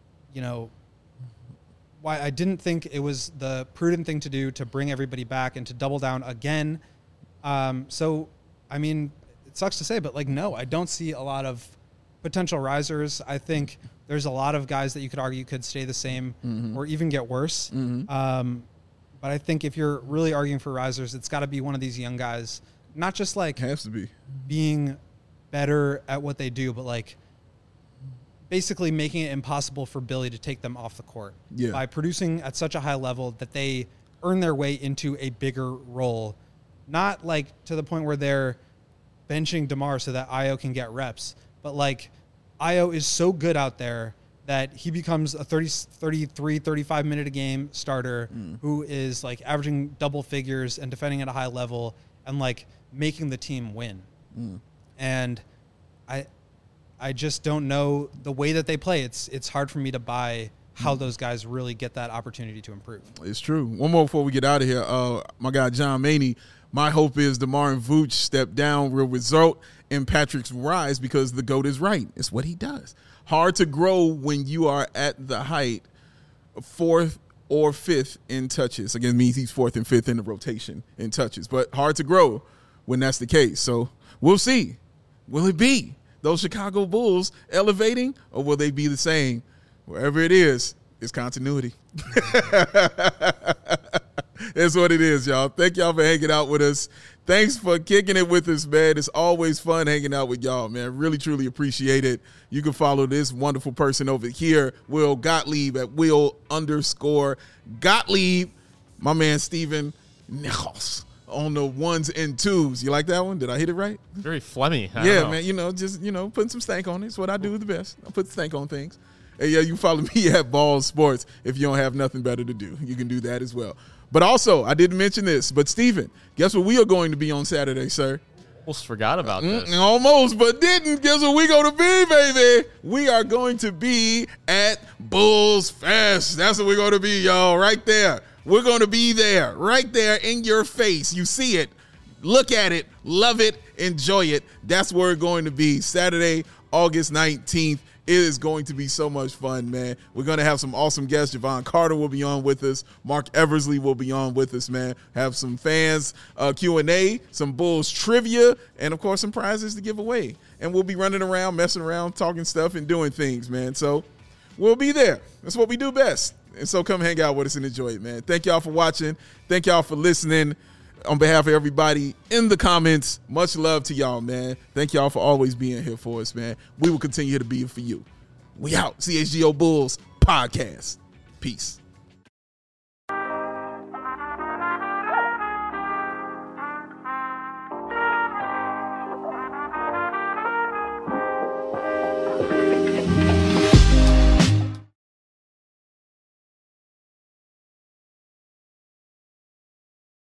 why I didn't think it was the prudent thing to do to bring everybody back and to double down again. So, I mean, it sucks to say, but like, no, I don't see a lot of potential risers. I think there's a lot of guys that you could argue could stay the same or even get worse. But I think if you're really arguing for risers, it's got to be one of these young guys, not just like has to be being better at what they do, but like basically making it impossible for Billy to take them off the court by producing at such a high level that they earn their way into a bigger role. Not like to the point where they're benching DeMar so that Ayo can get reps, but like Ayo is so good out there that he becomes a 33, 35 minute a game starter who is like averaging double figures and defending at a high level and like making the team win. And I just don't know the way that they play. It's hard for me to buy how those guys really get that opportunity to improve. It's true. One more before we get out of here. My guy John Maney, my hope is DeMar and Vooch step down will result in Patrick's rise because the GOAT is right. It's what he does. Hard to grow when you are at the height, 4th or 5th in touches. Again, it means he's 4th and 5th in the rotation in touches. But hard to grow when that's the case. So we'll see. Will it be those Chicago Bulls elevating, or will they be the same? Wherever it is, it's continuity. That's what it is, y'all. Thank y'all for hanging out with us. Thanks for kicking it with us, man. It's always fun hanging out with y'all, man. Really, truly appreciate it. You can follow this wonderful person over here, Will Gottlieb, at Will_Gottlieb. My man, Steven Nichols, on the 1s and 2s. You like that one? Did I hit it right? Very phlegmy. Yeah, man. Just putting some stank on it. It's what I do the best. I put stank on things. Hey, yeah, you can follow me at Ball Sports if you don't have nothing better to do. You can do that as well. But also, I didn't mention this, but Steven, guess what we are going to be on Saturday, sir? Almost forgot about this. Almost, but didn't. Guess what we going to be, baby? We are going to be at Bulls Fest. That's what we're going to be, y'all, right there. We're going to be there, right there in your face. You see it. Look at it. Love it. Enjoy it. That's where we're going to be Saturday, August 19th. It is going to be so much fun, man. We're going to have some awesome guests. Javon Carter will be on with us. Mark Eversley will be on with us, man. Have some fans Q&A, some Bulls trivia, and, of course, some prizes to give away. And we'll be running around, messing around, talking stuff, and doing things, man. So we'll be there. That's what we do best. And so come hang out with us and enjoy it, man. Thank y'all for watching. Thank y'all for listening. On behalf of everybody in the comments, much love to y'all, man. Thank y'all for always being here for us, man. We will continue to be here for you. We out. CHGO Bulls Podcast. Peace.